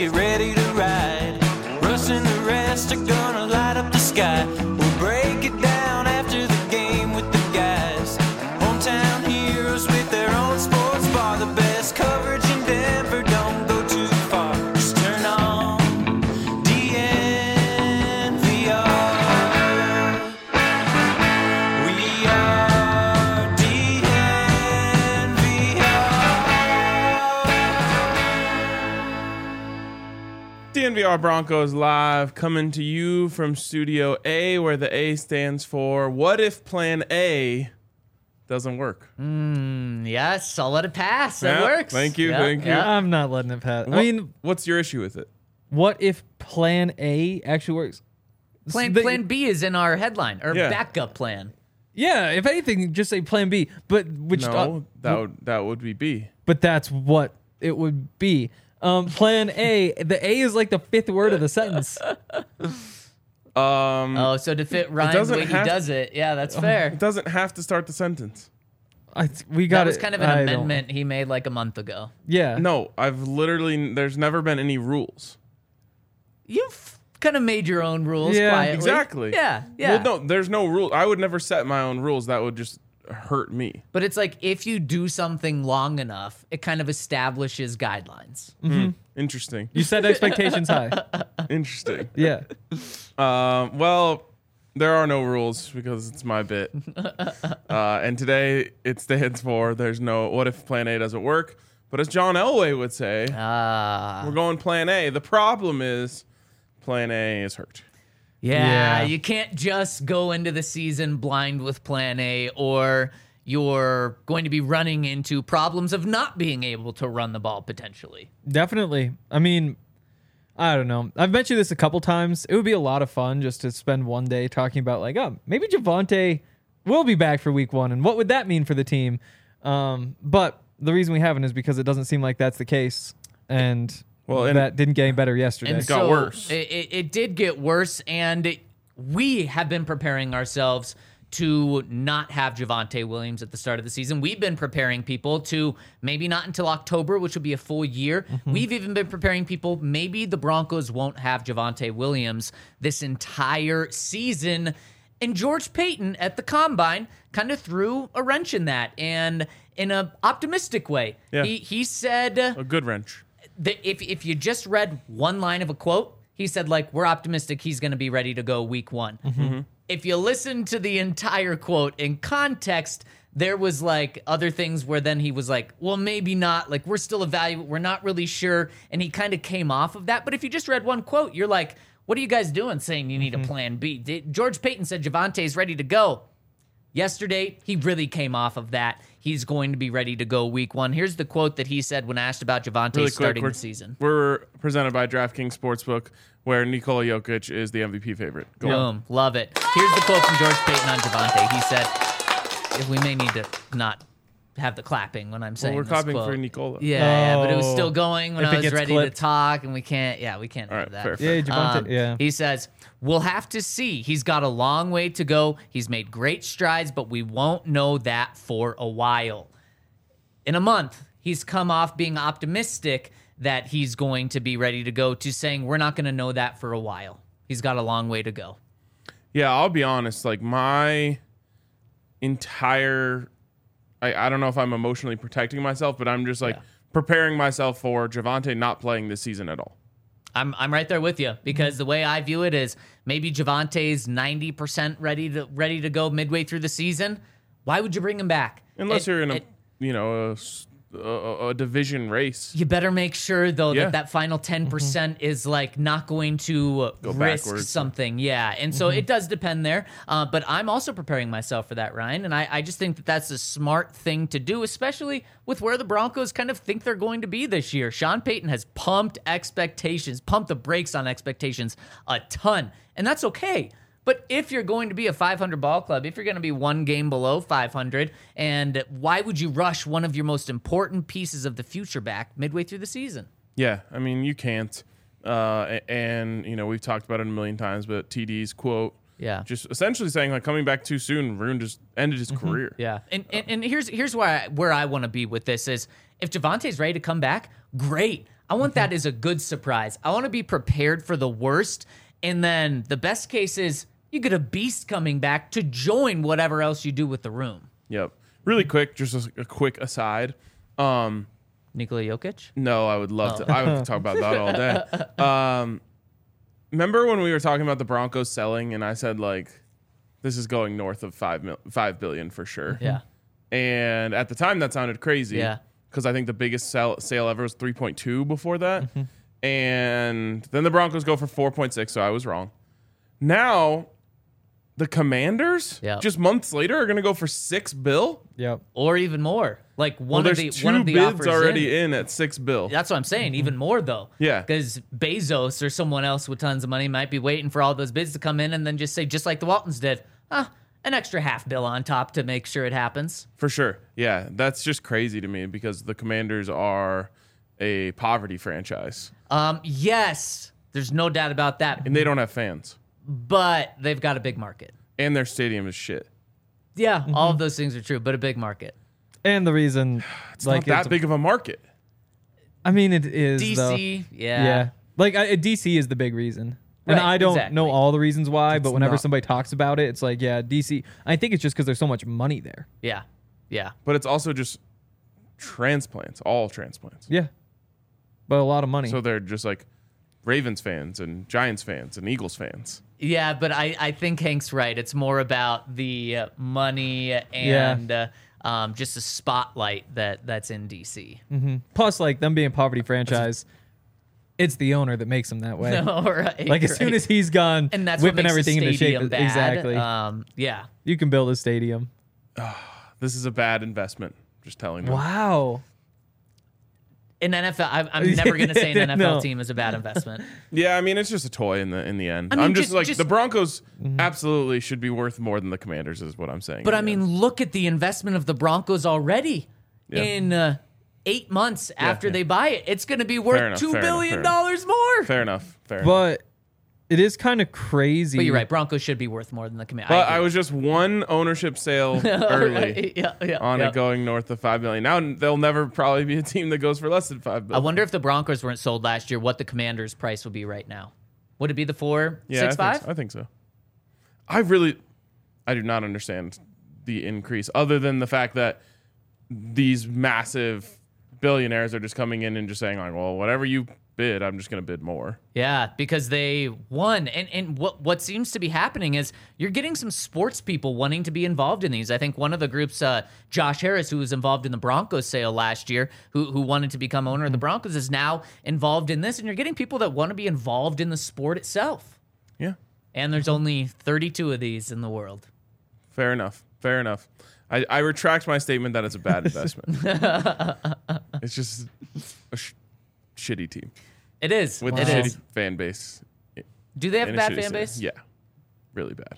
get ready to ride. Russ and the rest are gonna light up the sky. We'll break it down after the game with the guys. Hometown heroes with their own sports bar. The best coverage in Denver, don't go too far. Just turn on DNVR. We are DNVR. DNVR Broncos Live, coming to you from Studio A, where the A stands for what if Plan A doesn't work? Yes, I'll let it pass. That Yeah, works. thank you, Yeah, thank you. yeah. I'm not letting it pass. What- I mean, what's your issue with it? what if Plan A actually works? Plan B is in our headline, or Yeah. backup plan. Yeah, if anything, just say Plan B. But No, that would be B. But that's what it would be. Plan A. The A is like the fifth word of the sentence. Oh, so to fit Ryan the doesn't way he have- does it, yeah, that's fair. It doesn't have to start the sentence. We got That was it. kind of an I don't- amendment he made like a month ago. Yeah. No, there's never been any rules. You've kind of made your own rules Yeah, quietly. Exactly. Yeah, yeah. Well, no, there's no rule. I would never set my own rules. That would just hurt me. But it's like if you do something long enough, it kind of establishes guidelines. Interesting. You set expectations high. Interesting. Yeah. Well, there are no rules because it's my bit. And today it stands for there's no what if Plan A doesn't work. But as John Elway would say, we're going Plan A. The problem is Plan A is hurt. Yeah, Yeah. you can't just go into the season blind with Plan A, or you're going to be running into problems of not being able to run the ball potentially. Definitely. I mean, I don't know. I've mentioned this a couple times. It would be a lot of fun just to spend one day talking about like, oh, maybe Javonte will be back for week 1, and what would that mean for the team? But the reason we haven't is because it doesn't seem like that's the case, and that didn't get any better yesterday. It got worse. It did get worse, and we have been preparing ourselves to not have Javonte Williams at the start of the season. We've been preparing people to maybe not until October, which will be a full year. We've even been preparing people, maybe the Broncos won't have Javonte Williams this entire season. And George Payton at the Combine kind of threw a wrench in that, and in an optimistic way. Yeah. He said... A good wrench. If you just read one line of a quote, he said, like, we're optimistic he's going to be ready to go week 1. If you listen to the entire quote in context, there was like other things where then he was like, well, maybe not. Like, we're still evaluating. We're not really sure. And he kind of came off of that. But if you just read one quote, you're like, what are you guys doing saying you need a plan B? George Payton said Javonte's ready to go. Yesterday, he really came off of that. He's going to be ready to go week 1. Here's the quote that he said when asked about Javonte Really quick, starting the season. We're presented by DraftKings Sportsbook, where Nikola Jokic is the MVP favorite. Go on. Boom. Love it. Here's the quote from George Payton on Javonte. He said, if we may need to not have the clapping when I'm saying Well, we're this clapping quote. for Nikola. Yeah, but it was Oh. still going when If I it was gets ready clipped. to talk, and we can't All have right, that. fair. Yeah, Javonte. Yeah. He says, we'll have to see. He's got a long way to go. He's made great strides, but we won't know that for a while. In a month, he's come off being optimistic that he's going to be ready to go to saying we're not going to know that for a while. He's got a long way to go. Yeah, I'll be honest. Like, my entire... I don't know if I'm emotionally protecting myself, but I'm just like preparing myself for Javonte not playing this season at all. I'm right there with you, because the way I view it is maybe Javonte's 90% ready to go midway through the season. Why would you bring him back? Unless you're in a division race. You better make sure, though, Yeah. that final 10% is like not going to risk backwards. something. Yeah. And so it does depend there. But I'm also preparing myself for that, Ryan. And I just think that that's a smart thing to do, especially with where the Broncos kind of think they're going to be this year. Sean Payton has pumped the brakes on expectations a ton. And that's okay. But if you're going to be a 500 ball club, if you're going to be one game below 500, and why would you rush one of your most important pieces of the future back midway through the season? Yeah, I mean, you can't. And, we've talked about it a million times, but TD's quote, just essentially saying, like, coming back too soon just ended his career. Yeah. And here's where I want to be with this is if Javonte's ready to come back, great. I want that as a good surprise. I want to be prepared for the worst. And then the best case is you get a beast coming back to join whatever else you do with the room. Yep. Really quick, just a quick aside. Nikola Jokic? No, I would love to. I would talk about that all day. Remember when we were talking about the Broncos selling, and I said like, this is going north of $5 billion for sure. Yeah. And at the time, that sounded crazy. Yeah. Because I think the biggest sale ever was 3.2 before that. And then the Broncos go for 4.6, so I was wrong. Now, the Commanders, just months later, are going to go for $6 billion. Yep. Or even more. Like one There's one of two the bids offers already in at $6 billion. That's what I'm saying. Even more though. Yeah. Because Bezos or someone else with tons of money might be waiting for all those bids to come in and then just say, just like the Waltons did, an extra $500 million on top to make sure it happens. For sure. Yeah, that's just crazy to me because the Commanders are a poverty franchise. Yes, there's no doubt about that. And they don't have fans. But they've got a big market. And their stadium is shit. Yeah, all of those things are true, but a big market. And the reason, It's not that big of a market. I mean, it is DC, though. yeah. Like DC is the big reason. And Right, I don't exactly. know all the reasons why, but whenever not- somebody talks about it, it's like, yeah, DC. I think it's just because there's so much money there. Yeah. But it's also just transplants, all transplants. Yeah. But a lot of money. So they're just like Ravens fans and Giants fans and Eagles fans. Yeah, but I think Hank's right. It's more about the money and just the spotlight that's in DC. Plus, like them being a poverty franchise, it's the owner that makes them that way. Right, Like as soon as he's gone, and that's what whipping makes everything the into shape. stadium bad. Exactly. Yeah. You can build a stadium. This is a bad investment. Just telling you. Wow. In NFL, I'm never going to say an NFL No. team is a bad investment. Yeah, I mean it's just a toy in the end. I mean, I'm just just- the Broncos absolutely should be worth more than the Commanders is what I'm saying. But in I the mean, end. look at the investment of the Broncos already. Yeah. In 8 months after they buy it, it's going to be worth enough, $2 fair billion enough, more. fair enough. But it is kind of crazy. But you're right. Broncos should be worth more than the Commanders. But I was just one ownership sale early on yeah. it going north of $5 billion. Now there'll never probably be a team that goes for less than $5 billion. I wonder if the Broncos weren't sold last year, what the Commanders' price would be right now. Would it be the 4.65? I think so. I do not understand the increase other than the fact that these massive billionaires are just coming in and just saying like, well, whatever you bid, I'm just going to bid more. Yeah, because they won. And what seems to be happening is you're getting some sports people wanting to be involved in these. I think one of the groups, Josh Harris, who was involved in the Broncos sale last year, who wanted to become owner of the Broncos, is now involved in this. And you're getting people that want to be involved in the sport itself. Yeah. And there's only 32 of these in the world. Fair enough. I retract my statement that it's a bad investment. It's just a shitty team It is. with It a is. shitty fan base. Do they have a and bad shitty fan stadium. base? Yeah. Really bad.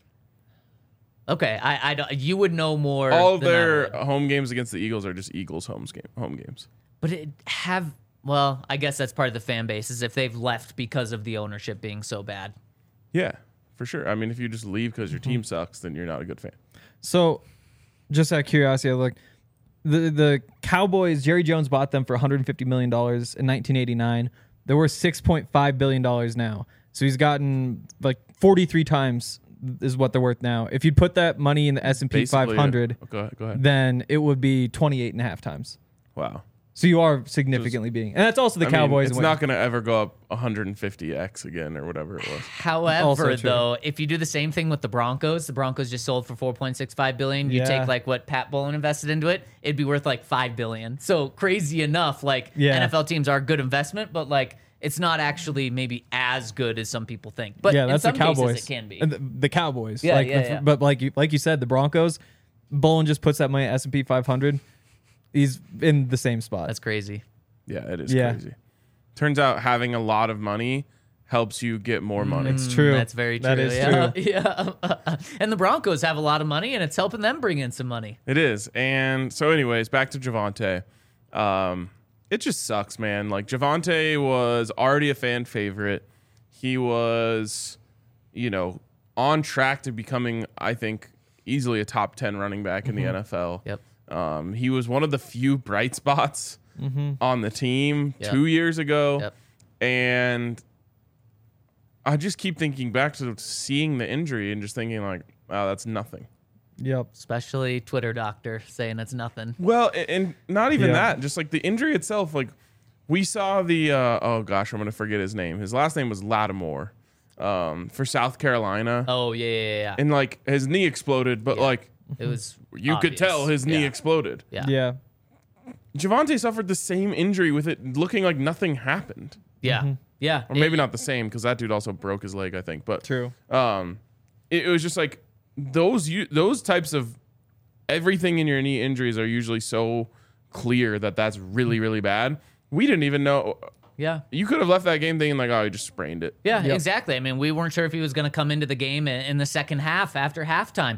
Okay, I don't. You would know more. All of than I their would. home games against the Eagles are just Eagles home games. But it have. Well, I guess that's part of the fan base is if they've left because of the ownership being so bad. Yeah, for sure. I mean, if you just leave because your team sucks, then you're not a good fan. So, just out of curiosity, like the Cowboys, Jerry Jones bought them for $150 million in 1989. They're worth $6.5 billion now. So he's gotten like 43 times is what they're worth now. If you'd put that money in the S&P Basically, 500, Go ahead. then it would be 28.5 times. Wow. So you are significantly being, and that's also the I mean, Cowboys. it's not going to ever go up 150x again or whatever it was. However, Also true. though, if you do the same thing with the Broncos just sold for $4.65 billion. You Yeah. take like what Pat Bowlen invested into it, it'd be worth like $5 billion. So crazy enough, like Yeah. NFL teams are a good investment, but like it's not actually maybe as good as some people think. But yeah, in that's some the Cowboys. cases, it can be. And the Cowboys. Yeah, like, yeah. But like you said, the Broncos, Bolin just puts that money at S&P 500. He's in the same spot. That's crazy. Yeah, it is Yeah. crazy. Turns out having a lot of money helps you get more money. It's true. That's very true. That is yeah. true. Yeah. And the Broncos have a lot of money, and it's helping them bring in some money. It is. And so anyways, back to Javonte. It just sucks, man. Like Javonte was already a fan favorite. He was, on track to becoming, I think, easily a top 10 running back in the NFL. Yep. He was one of the few bright spots on the team Yep. 2 years ago. Yep. And I just keep thinking back to seeing the injury and just thinking like, wow, that's nothing. Yep. Especially Twitter doctor saying it's nothing. Well, and not even Yeah. that, just like the injury itself. Like we saw the, oh gosh, I'm going to forget his name. His last name was Lattimore for South Carolina. Oh, yeah. And like his knee exploded, but like It was you could obvious. tell his knee Yeah. exploded. Yeah. Yeah. Javonte suffered the same injury with it looking like nothing happened. Yeah. Yeah. Or maybe not the same because that dude also broke his leg, I think. But True. it was just like those types of everything in your knee injuries are usually so clear that that's really, really bad. We didn't even know. Yeah. You could have left that game thinking like, oh, he just sprained it. Yeah, Yep. exactly. I mean, we weren't sure if he was going to come into the game in the second half after halftime.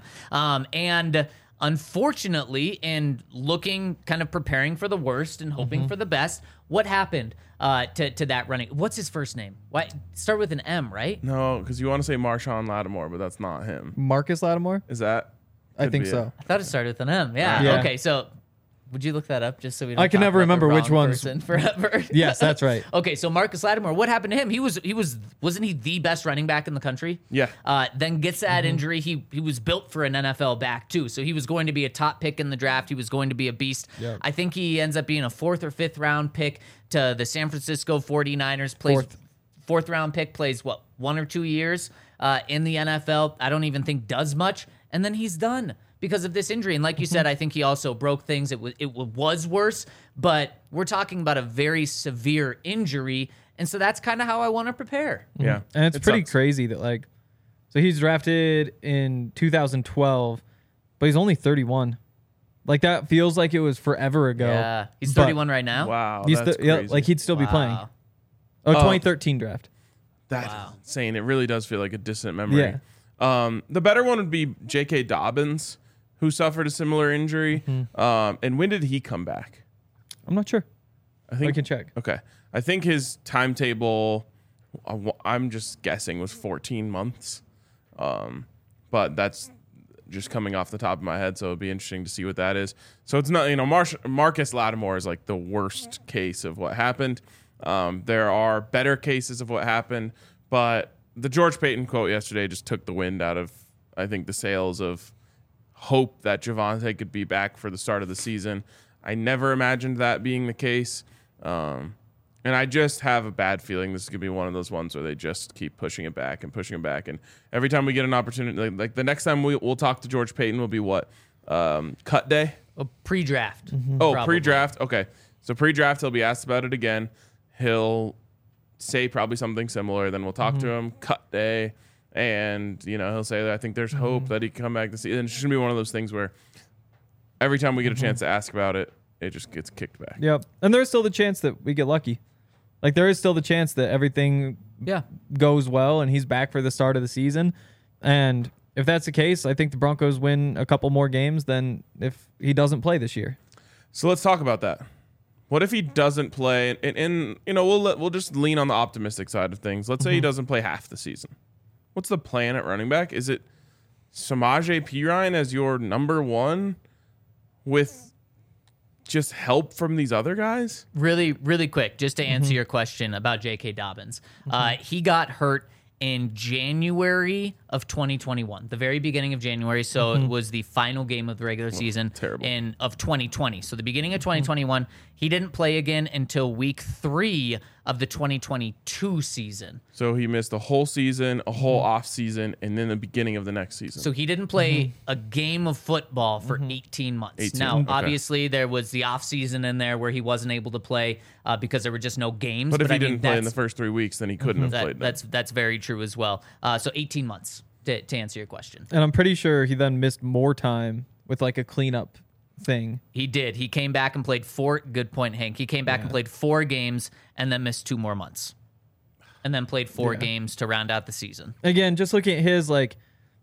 And unfortunately, in looking, kind of preparing for the worst and hoping for the best, what happened to that running? What's his first name? Why start with an M, right? No, because you want to say Marshawn Lattimore, but that's not him. Marcus Lattimore? Is that? I Could think be so. it. I thought it started with an M. Yeah. Yeah. Okay. So, would you look that up just so we don't? I can talk never about the remember which wrong ones- person forever. Yes, that's right. Okay, so Marcus Lattimore, what happened to him? Wasn't he the best running back in the country? Yeah. Then gets that injury. He was built for an NFL back too, so he was going to be a top pick in the draft. He was going to be a beast. Yep. I think he ends up being a 4th or 5th round pick to the San Francisco 49ers. Plays fourth round pick, plays what, 1 or 2 years in the NFL. I don't even think does much, and then he's done because of this injury. And like you said, I think he also broke things. It was worse, but we're talking about a very severe injury, and so that's kind of how I want to prepare. Yeah. And it's It pretty sucks. crazy that like, so he's drafted in 2012, but he's only 31. Like that feels like it was forever ago. Yeah, he's But 31 right now. Wow. He's That's yeah, crazy. like he'd still be playing. Wow. Oh, 2013 draft. That's Wow. insane. It really does feel like a distant memory. The better one would be J.K. Dobbins, who suffered a similar injury. And when did he come back? I'm not sure. I think I can check. Okay. I think his timetable, I'm just guessing, was 14 months. But that's just coming off the top of my head, so it'd be interesting to see what that is. So it's not, Marcus Lattimore is like the worst case of what happened. There are better cases of what happened, but the George Payton quote yesterday just took the wind out of, I think, the sails of hope that Javonte could be back for the start of the season. I never imagined that being the case. And I just have a bad feeling this is going to be one of those ones where they just keep pushing it back and pushing it back. And every time we get an opportunity, like the next time we'll talk to George Payton will be what? Cut day? A pre-draft. Oh, probably. pre-draft. Okay. So pre-draft, he'll be asked about it again. He'll say probably something similar. Then we'll talk to him. Cut day. And, he'll say that I think there's hope that he can come back this season. It's just going to be one of those things where every time we get a chance to ask about it, it just gets kicked back. Yep. And there's still the chance that we get lucky. Like there is still the chance that everything Yeah. goes well and he's back for the start of the season. And if that's the case, I think the Broncos win a couple more games than if he doesn't play this year. So let's talk about that. What if he doesn't play? And we'll just lean on the optimistic side of things. Let's say he doesn't play half the season. What's the plan at running back? Is it Samaje Perine as your number one with just help from these other guys? Really, really quick, just to answer your question about J.K. Dobbins. He got hurt in January of 2021, the very beginning of January. So it was the final game of the regular season terrible. of 2020. So the beginning of 2021, he didn't play again until week 3 of the 2022 season. So he missed the whole season, a whole off season, and then the beginning of the next season. So he didn't play a game of football for 18 months. 18, Now, okay. obviously, there was the off season in there where he wasn't able to play because there were just no games. but if he I mean, didn't play in the that's- first 3 weeks, then he couldn't have played. that's very true as well. So 18 months to answer your question. And I'm pretty sure he then missed more time with like a cleanup thing. He did. He came back and played 4. Good point, Hank. He came back and played 4 games and then missed 2 more months, and then played 4 games to round out the season. Again, just looking at his like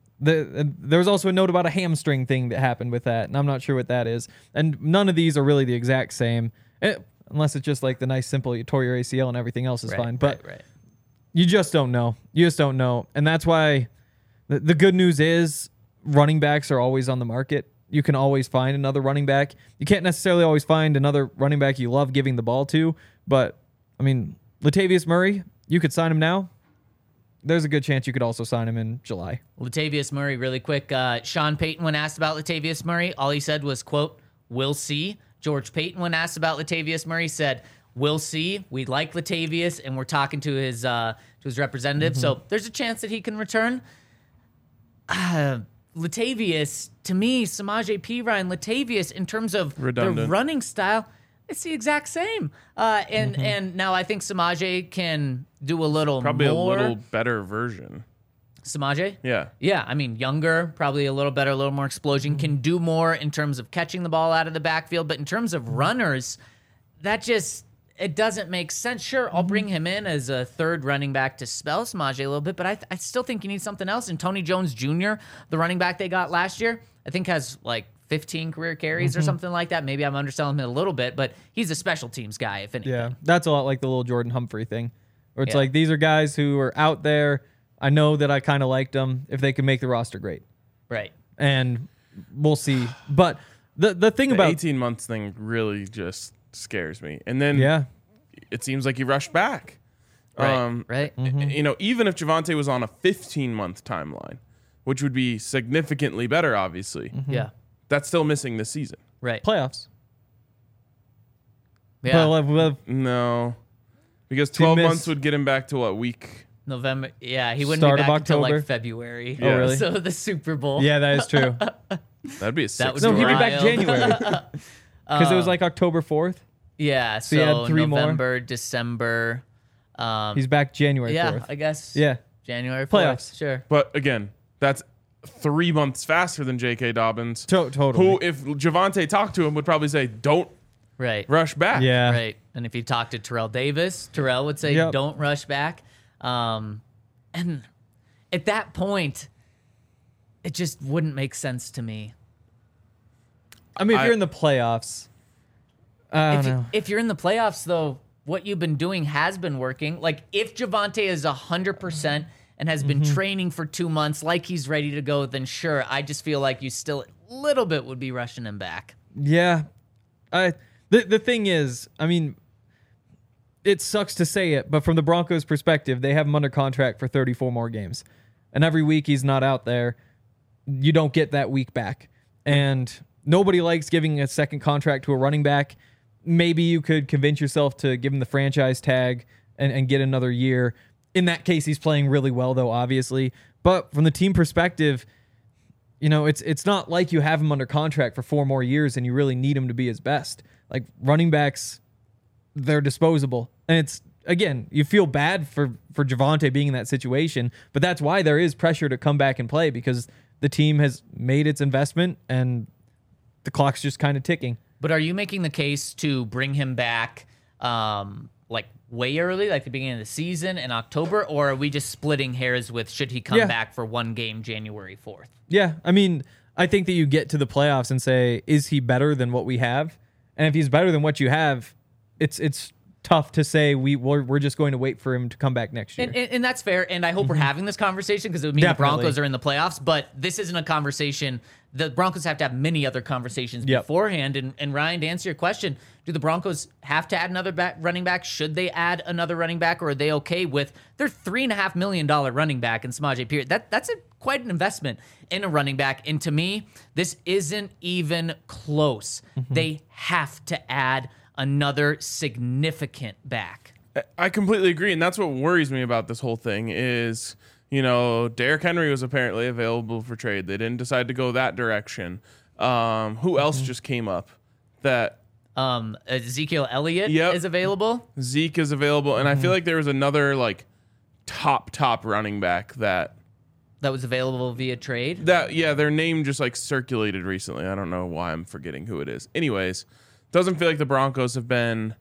there was also a note about a hamstring thing that happened with that, and I'm not sure what that is. And none of these are really the exact same, unless it's just like the nice simple you tore your ACL and everything else is fine. But right. you just don't know. You just don't know, and that's why the good news is running backs are always on the market. you can always find another running back. You can't necessarily always find another running back you love giving the ball to, but I mean, Latavius Murray, you could sign him now. There's a good chance you could also sign him in July. Latavius Murray, really quick. Sean Payton, when asked about Latavius Murray, all he said was, quote, "We'll see." George Payton, when asked about Latavius Murray, said, "We'll see. We like Latavius, and we're talking to his representative. So there's a chance that he can return." Latavius, to me, Samaje Perine, Latavius, in terms of Redundant. the running style, it's the exact same. And now I think Samaje can do a little Probably more. a little better version. Samaje? Yeah. Yeah, I mean, younger, probably a little better, a little more explosion, can do more in terms of catching the ball out of the backfield. But in terms of runners, it doesn't make sense. Sure, I'll bring him in as a third running back to spell Samaje a little bit, but I still think you need something else. And Tony Jones Jr., the running back they got last year, I think has like 15 career carries or something like that. Maybe I'm underselling him a little bit, but he's a special teams guy, if anything. Yeah, that's a lot like the little Jordan Humphrey thing, where it's Yeah. like, these are guys who are out there. I know that I kind of liked them. If they can make the roster, great. Right. And we'll see. But the thing The about 18 months thing really just scares me. And then yeah, it seems like he rushed back. Right. Right. You know, even if Javonte was on a 15-month timeline, which would be significantly better, obviously, Yeah. that's still missing this season. Right. playoffs. Yeah. Well, No. Because To 12 miss- months would get him back to what, week? November. Yeah, he wouldn't Start be of back until October? like February. Oh, really? So the Super Bowl. yeah, that is true. That'd be a That 6. would No, be he'd be back wild. January because it was like October 4th. Yeah. So you had 3 more? November, December. He's back January Yeah, 4th. I guess. Yeah, January 4th. Playoffs. Sure. But again, that's 3 months faster than J.K. Dobbins, totally. who, if Javonte talked to him, would probably say, don't Right. rush back. Yeah, Right. And if you talk to Terrell Davis, Terrell would say, Yep. don't rush back. And at that point, it just wouldn't make sense to me. I mean, if I- you're in the playoffs, I don't know. If you're in the playoffs, though, what you've been doing has been working. Like, if Javonte is 100% and has been training for 2 months like he's ready to go, then sure, I just feel like you still a little bit would be rushing him back. Yeah. The thing is, I mean, it sucks to say it, but from the Broncos' perspective, they have him under contract for 34 more games. And every week he's not out there, you don't get that week back. And nobody likes giving a second contract to a running back. Maybe you could convince yourself to give him the franchise tag and get another year. In that case, he's playing really well, though, obviously. But from the team perspective, you know, it's not like you have him under contract for 4 more years and you really need him to be his best. Like, running backs, they're disposable. And it's, again, you feel bad for Javonte being in that situation, but that's why there is pressure to come back and play, because the team has made its investment and the clock's just kind of ticking. But are you making the case to bring him back like way early, like the beginning of the season in October, or are we just splitting hairs with should he come Yeah. back for one game January 4th? Yeah, I mean, I think that you get to the playoffs and say, is he better than what we have? And if he's better than what you have, it's tough to say we're just going to wait for him to come back next year. And that's fair. And I hope we're having this conversation because it would mean Definitely. the Broncos are in the playoffs. But this isn't a conversation. The Broncos have to have many other conversations Yep. beforehand. And Ryan, to answer your question, do the Broncos have to add another running back? Should they add another running back, or are they okay with their $3.5 million running back in Samaje Perine? That's quite an investment in a running back. And to me, this isn't even close. They have to add another significant back. I completely agree, and that's what worries me about this whole thing is, you know, Derrick Henry was apparently available for trade. They didn't decide to go that direction. Who else just came up? That Ezekiel Elliott Yep. is available. Zeke is available, and I feel like there was another like top running back that That was available via trade. their name just like circulated recently. I don't know why I'm forgetting who it is. Anyways, doesn't feel like the Broncos have been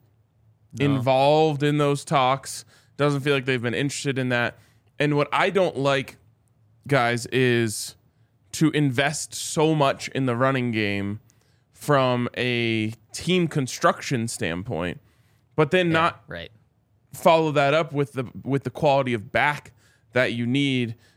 involved in those talks. Doesn't feel like they've been interested in that. And what I don't like, guys, is to invest so much in the running game from a team construction standpoint, but then not Right. follow that up with the quality of back that you need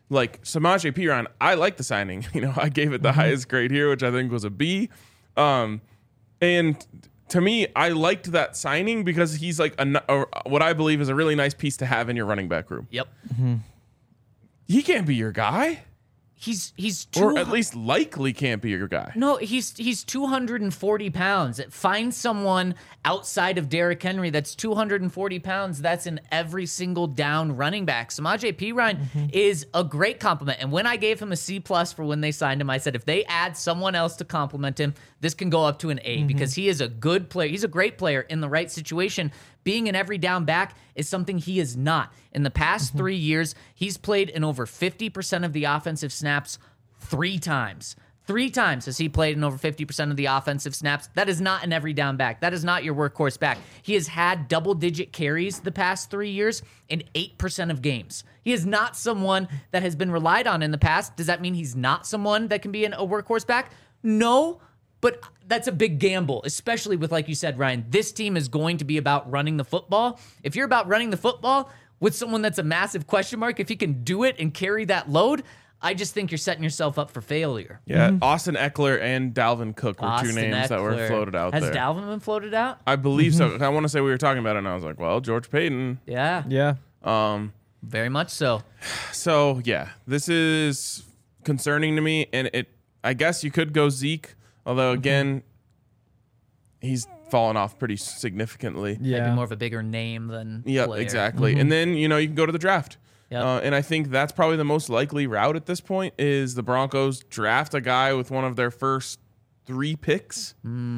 like Samaje Perine, I like the signing. I gave it the highest grade here, which I think was a B. And to me, I liked that signing because he's like what I believe is a really nice piece to have in your running back room. Yep. He can't be your guy. He's Or at least likely can't be your guy. No, he's 240 pounds. Find someone outside of Derrick Henry that's 240 pounds. That's in every single down running back. Samaje Perine is a great compliment. And when I gave him a C+ for when they signed him, I said if they add someone else to compliment him, this can go up to an A because he is a good player. He's a great player in the right situation. Being an every down back is something he is not. In the past 3 years, he's played in over 50% of the offensive snaps 3 times. 3 times has he played in over 50% of the offensive snaps. That is not an every down back. That is not your workhorse back. He has had double-digit carries the past 3 years in 8% of games. He is not someone that has been relied on in the past. Does that mean he's not someone that can be a workhorse back? No, but that's a big gamble, especially with, like you said, Ryan, this team is going to be about running the football. If you're about running the football with someone that's a massive question mark, if he can do it and carry that load, I just think you're setting yourself up for failure. Yeah, Austin Eckler and Dalvin Cook were two names that were floated out Has there. Has Dalvin been floated out? I believe so. I want to say we were talking about it, and I was like, well, George Payton. Yeah. Yeah. Very much so. So, yeah, this is concerning to me, and I guess you could go Zeke, although, again, he's fallen off pretty significantly. Yeah. Maybe more of a bigger name than Yeah, player. exactly. And then, you can go to the draft. Yep. And I think that's probably the most likely route at this point is the Broncos draft a guy with one of their first 3 picks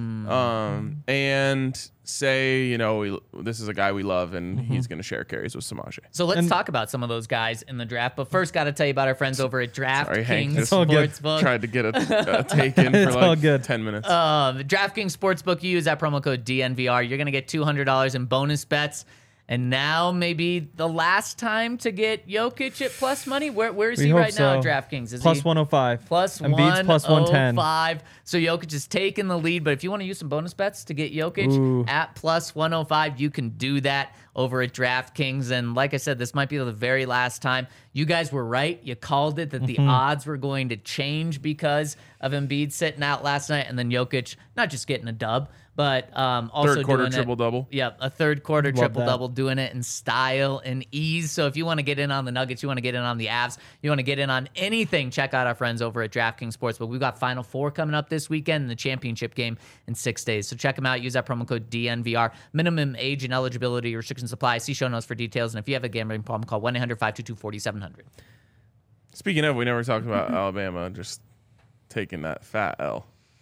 and say, this is a guy we love and he's going to share carries with Samaje. So let's talk about some of those guys in the draft. But first, got to tell you about our friends over at Sorry, Hank DraftKings just Sportsbook. tried to get a take in for all like good. 10 minutes. DraftKings Sportsbook, you use that promo code DNVR. You're going to get $200 in bonus bets. And now maybe the last time to get Jokic at plus money. Where is he hope right now at so. DraftKings? Is Plus he 105. plus Embiid's plus 110. 105? So Jokic is taking the lead. But if you want to use some bonus bets to get Jokic at plus 105, you can do that over at DraftKings. And like I said, this might be the very last time. You guys were right. You called it that the odds were going to change because of Embiid sitting out last night and then Jokic not just getting a dub, but also Third quarter doing triple-double. Yep, a third quarter Love triple-double, doing it in style and ease. So if you want to get in on the Nuggets, you want to get in on the Avs, you want to get in on anything, check out our friends over at DraftKings Sportsbook. We've got Final Four coming up this weekend and the championship game in 6 days. So check them out. Use that promo code DNVR. Minimum age and eligibility restrictions apply. See show notes for details. And if you have a gambling problem, call 1-800-522-4700. Speaking of, we never talked about Alabama just taking that fat L.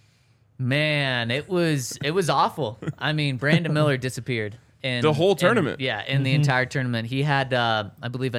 Man, it was awful. I mean, Brandon Miller disappeared. The whole tournament. In the entire tournament. He had, I believe, a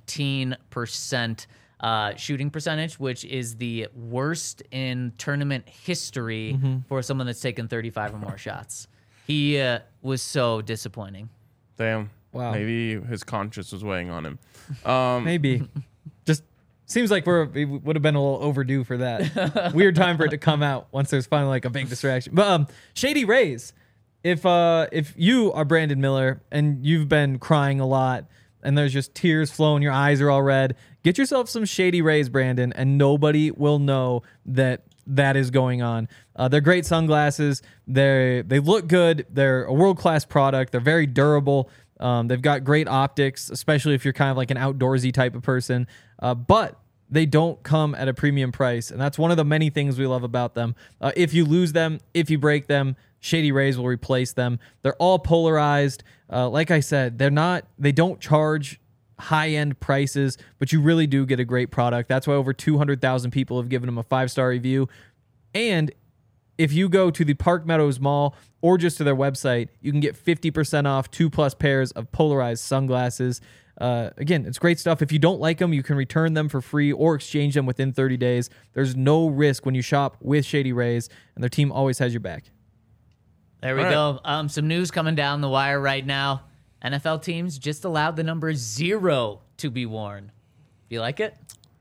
19% shooting percentage, which is the worst in tournament history for someone that's taken 35 or more shots. He was so disappointing. Damn. Wow. Maybe his conscience was weighing on him. Maybe. Just seems like we would have been a little overdue for that. Weird time for it to come out once there's finally like a big distraction. But Shady Rays, if you are Brandon Miller and you've been crying a lot and there's just tears flowing, your eyes are all red, get yourself some Shady Rays, Brandon, and nobody will know that is going on. They're great sunglasses. They look good. They're a world-class product. They're very durable. They've got great optics, especially if you're kind of like an outdoorsy type of person. But they don't come at a premium price, and that's one of the many things we love about them. If you lose them, if you break them, Shady Rays will replace them. They're all polarized. Like I said, they don't charge high-end prices, but you really do get a great product. That's why over 200,000 people have given them a 5-star review. And if you go to the Park Meadows Mall or just to their website, you can get 50% off 2+ pairs of polarized sunglasses. Again, it's great stuff. If you don't like them, you can return them for free or exchange them within 30 days. There's no risk when you shop with Shady Rays, and their team always has your back. There we go. Some news coming down the wire right now. NFL teams just allowed the number 0 to be worn. Do you like it?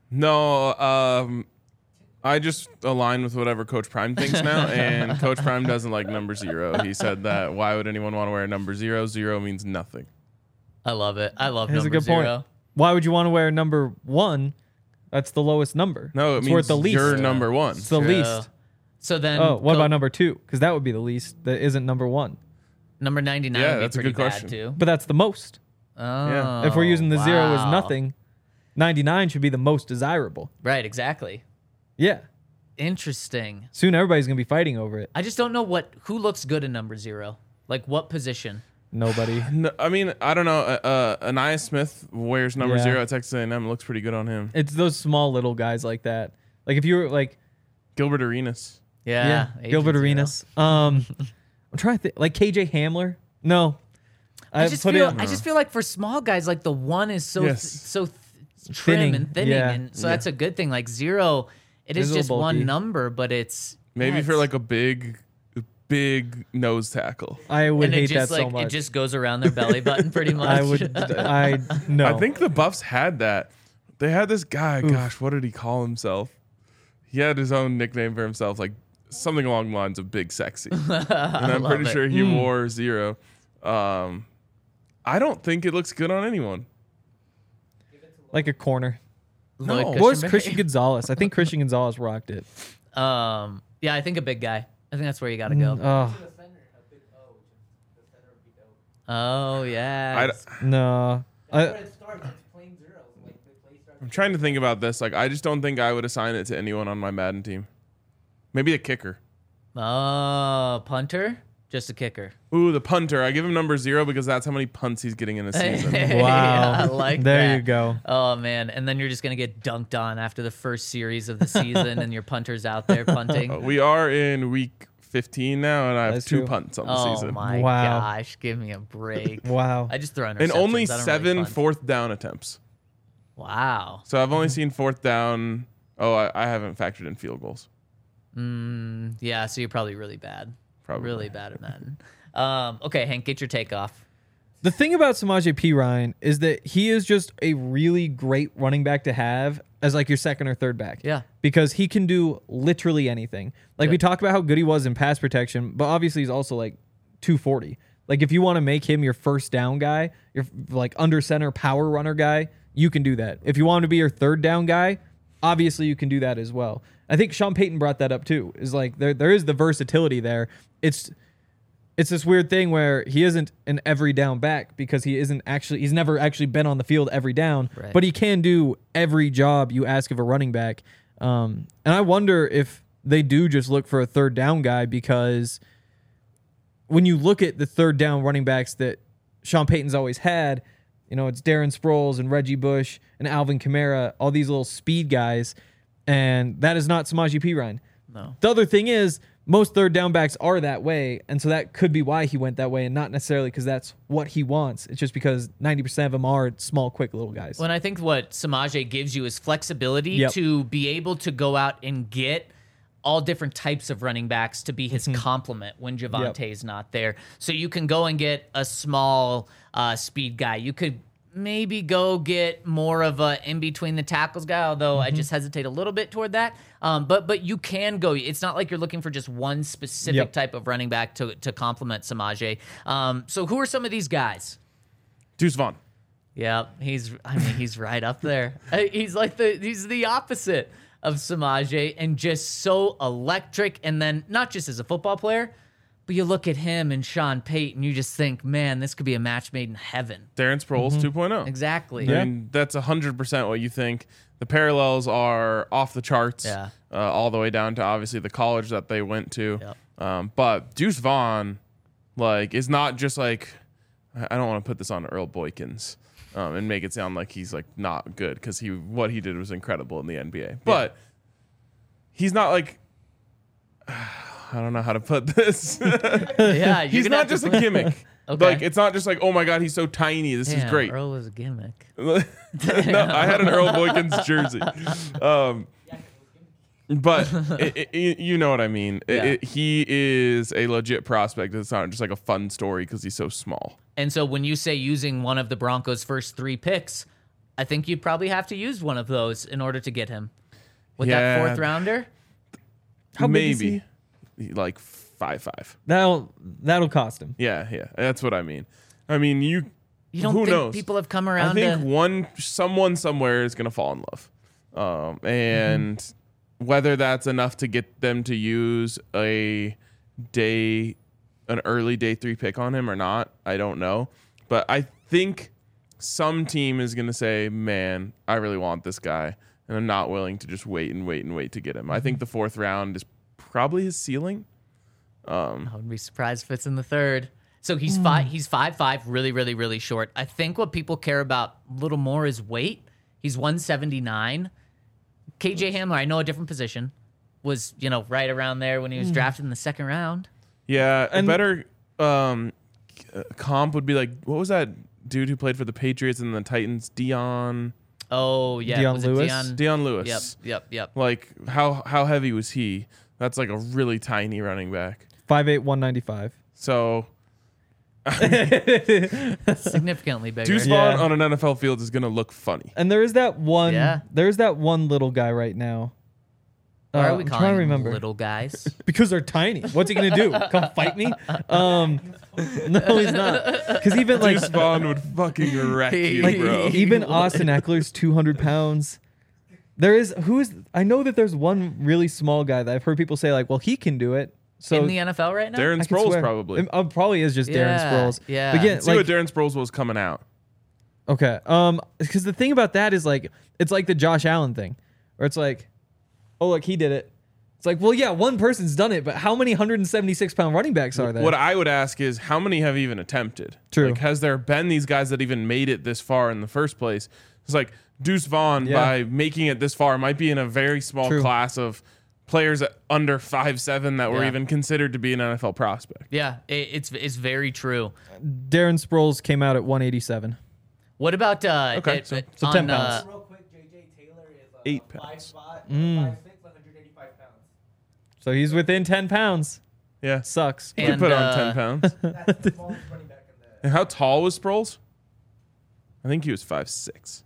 No, I just align with whatever Coach Prime thinks now, and Coach Prime doesn't like number 0. He said that why would anyone want to wear a number 0? 0 means nothing. I love it. I love That's number a good 0. point. Why would you want to wear number 1 That's the lowest number. No, it it's means worth the least. you're number one. It's the True. least. So then, Oh, what about number 2? Because that would be the least. That isn't number 1. number 99? Yeah, would be that's a pretty good bad question. too. But that's the most. Oh, If we're using the 0 as wow. nothing, 99 should be the most desirable. Right, exactly. Yeah. Interesting. Soon everybody's going to be fighting over it. I just don't know who looks good in number 0. Like what position? Nobody. No, I mean, I don't know. Anaya Smith wears number Yeah. 0 at Texas A&M. Looks pretty good on him. It's those small little guys like that. Like if you were like, Gilbert Arenas. Yeah, Gilbert Agent Arenas. I'm trying to think. Like KJ Hamler. No. I just feel like for small guys, like the 1 is so Yes. trim Thinning, and thinning, yeah. and so that's a good thing. Like 0, it is It's a just little one bulky. number, but it's Maybe yeah, for it's- like a big nose tackle. I would and hate it just that so like much. it just goes around their belly button pretty much. No. I think the Buffs had that. They had this guy. Gosh, what did he call himself? He had his own nickname for himself, like something along the lines of Big Sexy. And I'm love pretty it. sure he wore 0. I don't think it looks good on anyone. like a corner. Lloyd No. What was Cushenberry. Christian Gonzalez? I think Christian Gonzalez rocked it. Yeah, I think a big guy. I think that's where you got to go. Oh, Oh yeah. no. I'm trying to think about this. Like, I just don't think I would assign it to anyone on my Madden team. Maybe a kicker. Oh, punter, just a kicker. Ooh, the punter. I give him number 0 because that's how many punts he's getting in a season. Wow. I like There that. you go. Oh man, and then you're just gonna get dunked on after the first series of the season, and your punter's out there punting. We are in week 15 now, and I have That's 2 true. punts on the Oh season. my Wow. gosh, give me a break. Wow. I just throw interceptions. And only I don't 7 really punt. fourth down attempts. Wow. So I've only seen fourth down. Oh, I haven't factored in field goals. Yeah, so you're probably really bad. Probably. Really bad at Madden. Okay, Hank, get your take off. The thing about Samaje Perine is that he is just a really great running back to have as like your second or third back. Yeah. Because he can do literally anything. Like we talked about how good he was in pass protection, but obviously he's also like 240. Like if you want to make him your first down guy, your like under center power runner guy, you can do that. If you want him to be your third down guy, obviously you can do that as well. I think Sean Payton brought that up too. Is like there is the versatility there. It's this weird thing where he isn't an every down back because he's never actually been on the field every down, Right. but he can do every job you ask of a running back. And I wonder if they do just look for a third down guy, because when you look at the third down running backs that Sean Payton's always had, you know, it's Darren Sproles and Reggie Bush and Alvin Kamara, all these little speed guys, and that is not Samaje Perine. No. The other thing is, most third down backs are that way, and so that could be why he went that way, and not necessarily because that's what he wants. It's just because 90% of them are small, quick little guys. Well, and I think what Samaje gives you is flexibility Yep. to be able to go out and get all different types of running backs to be his complement when Javonte's not there. So you can go and get a small speed guy. You could maybe go get more of a in between the tackles guy, although I just hesitate a little bit toward that. But you can go. It's not like you're looking for just one specific Yep. type of running back to complement Samaje. So who are some of these guys? Deuce Vaughn. Yeah, he's right up there. He's the opposite of Samaje, and just so electric. And then not just as a football player, but you look at him and Sean Payton, you just think, man, this could be a match made in heaven. Darren Sproles 2.0. Exactly. I mean, that's 100% what you think. The parallels are off the charts, Yeah. all the way down to obviously the college that they went to. Yep. But Deuce Vaughn, like, is not just like, I don't want to put this on Earl Boykins and make it sound like he's like not good, because what he did was incredible in the NBA. But he's not like, I don't know how to put this. Yeah, you're He's gonna not have to just a put- gimmick. Okay. Like, it's not just like, oh my God, he's so tiny. This is Damn, great. Earl was a gimmick. No, I had an Earl Boykins jersey. But you know what I mean. Yeah. He is a legit prospect. It's not just like a fun story because he's so small. And so when you say using one of the Broncos' first 3 picks, I think you'd probably have to use one of those in order to get him. With that Yeah. 4th rounder? How big is Maybe like 5'5". That'll cost him. Yeah, that's what I mean. I mean, You don't who think knows? people have come I around think to... someone somewhere is gonna fall in love. And whether that's enough to get them to use an early day 3 pick on him or not, I don't know. But I think some team is going to say, man, I really want this guy, and I'm not willing to just wait to get him. I think the 4th round is probably his ceiling. I wouldn't be surprised if it's in the 3rd. So he's 5'5", really, really, really short. I think what people care about a little more is weight. He's 179. KJ Hamler, I know a different position, was right around there when he was drafted in the 2nd round. Yeah, a better comp would be like, what was that dude who played for the Patriots and the Titans? Dion. Oh yeah, Dion was it Lewis? Dion Lewis. Yep. Like how heavy was he? That's like a really tiny running back. 5'8", 195. So Significantly bigger. Deuce Yeah. Vaughn on an NFL field is gonna look funny. And there is that one. Yeah. There's that one little guy right now. Why are we I'm calling trying to them remember. little guys? Because they're tiny. What's he gonna do? Come fight me? No, he's not. Because even like Deuce Vaughn would fucking wreck you, like bro. even Austin Eckler's 200 pounds. I know that there's one really small guy that I've heard people say like, well, he can do it. So in the NFL right now? Darren I could Sproles swear. probably. It probably is just Darren Yeah, Sproles. yeah. But again, See like, what Darren Sproles was coming out. okay. Because the thing about that is like, it's like the Josh Allen thing, where it's like, oh look, he did it. It's like, well, yeah, one person's done it, but how many 176-pound running backs are there? What I would ask is, how many have even attempted? True. Like, has there been these guys that even made it this far in the first place? It's like Deuce Vaughn, Yeah. by making it this far, might be in a very small True. class of players at under 5'7" that were Yeah. even considered to be an NFL prospect. Yeah, it's very true. Darren Sproles came out at 187. What about Okay, so 10 pounds. Real quick, JJ Taylor is 8 5 pounds. spot, 5'6", 185 pounds. So he's within 10 pounds. Yeah. Sucks. You could And, put on 10 pounds. That's the smallest running back in the. And how tall was Sproles? I think he was 5'6".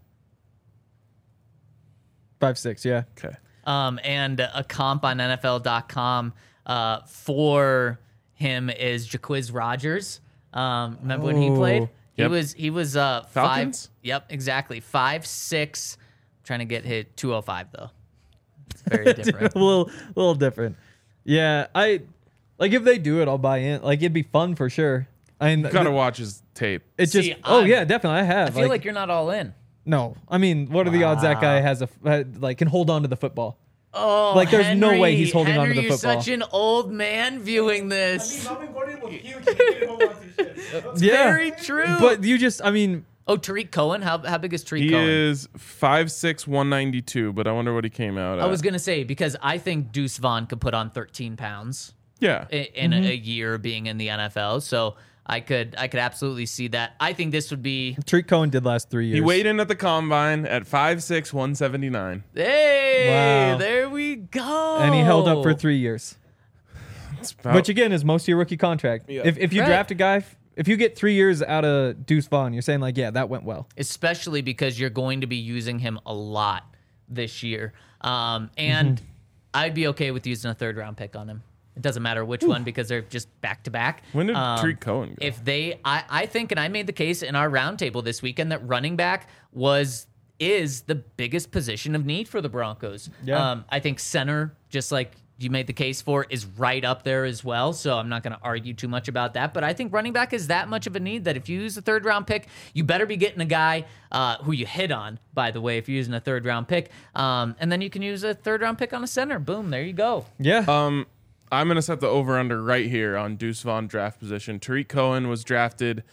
5'6", yeah. Okay. and a comp on NFL.com for him is Jaquiz Rogers. Remember when he played? Yep. He was Falcons? 5. Yep, exactly. 5'6". Trying to get hit 205 though. It's very different. a little different. Yeah, if they do it, I'll buy in. Like, it'd be fun for sure. You gotta watch his tape. It's See, just. Oh I'm- yeah, definitely. I have. I feel like you're not all in. No, I mean, what are the odds that guy has can hold on to the football? Oh, Like, there's no way he's holding Henry, onto the you're football. such an old man viewing this. Melvin Gordon was huge. He didn't hold on to the shit. Yeah, Very true. but you just. I mean, Oh, Tariq Cohen. How big is Tariq He Cohen? is 5'6", 192, but I wonder what he came out at. I was gonna say because I think Deuce Vaughn could put on 13 pounds Yeah. in a year being in the NFL. So I could absolutely see that. I think this would be Tariq Cohen did last 3 years. He weighed in at the combine at 5'6", 179. hey, Wow. there we go. and he held up for 3 years, It's about- which again is most of your rookie contract. Yeah. If you Right. draft a guy, if you get 3 years out of Deuce Vaughn, you're saying like, yeah, that went well. especially because you're going to be using him a lot this year. And Mm-hmm. I'd be okay with using a 3rd round pick on him. It doesn't matter which one because they're just back to back. When did Tariq Cohen go? If they, I think, and I made the case in our roundtable this weekend that running back is the biggest position of need for the Broncos. Yeah. I think center, just like you made the case for, is right up there as well. So I'm not going to argue too much about that. But I think running back is that much of a need that if you use a 3rd round pick, you better be getting a guy who you hit on, by the way, if you're using a 3rd round pick. And then you can use a 3rd round pick on a center. Boom, there you go. Yeah. I'm going to set the over-under right here on Deuce Vaughn draft position. Tariq Cohen was drafted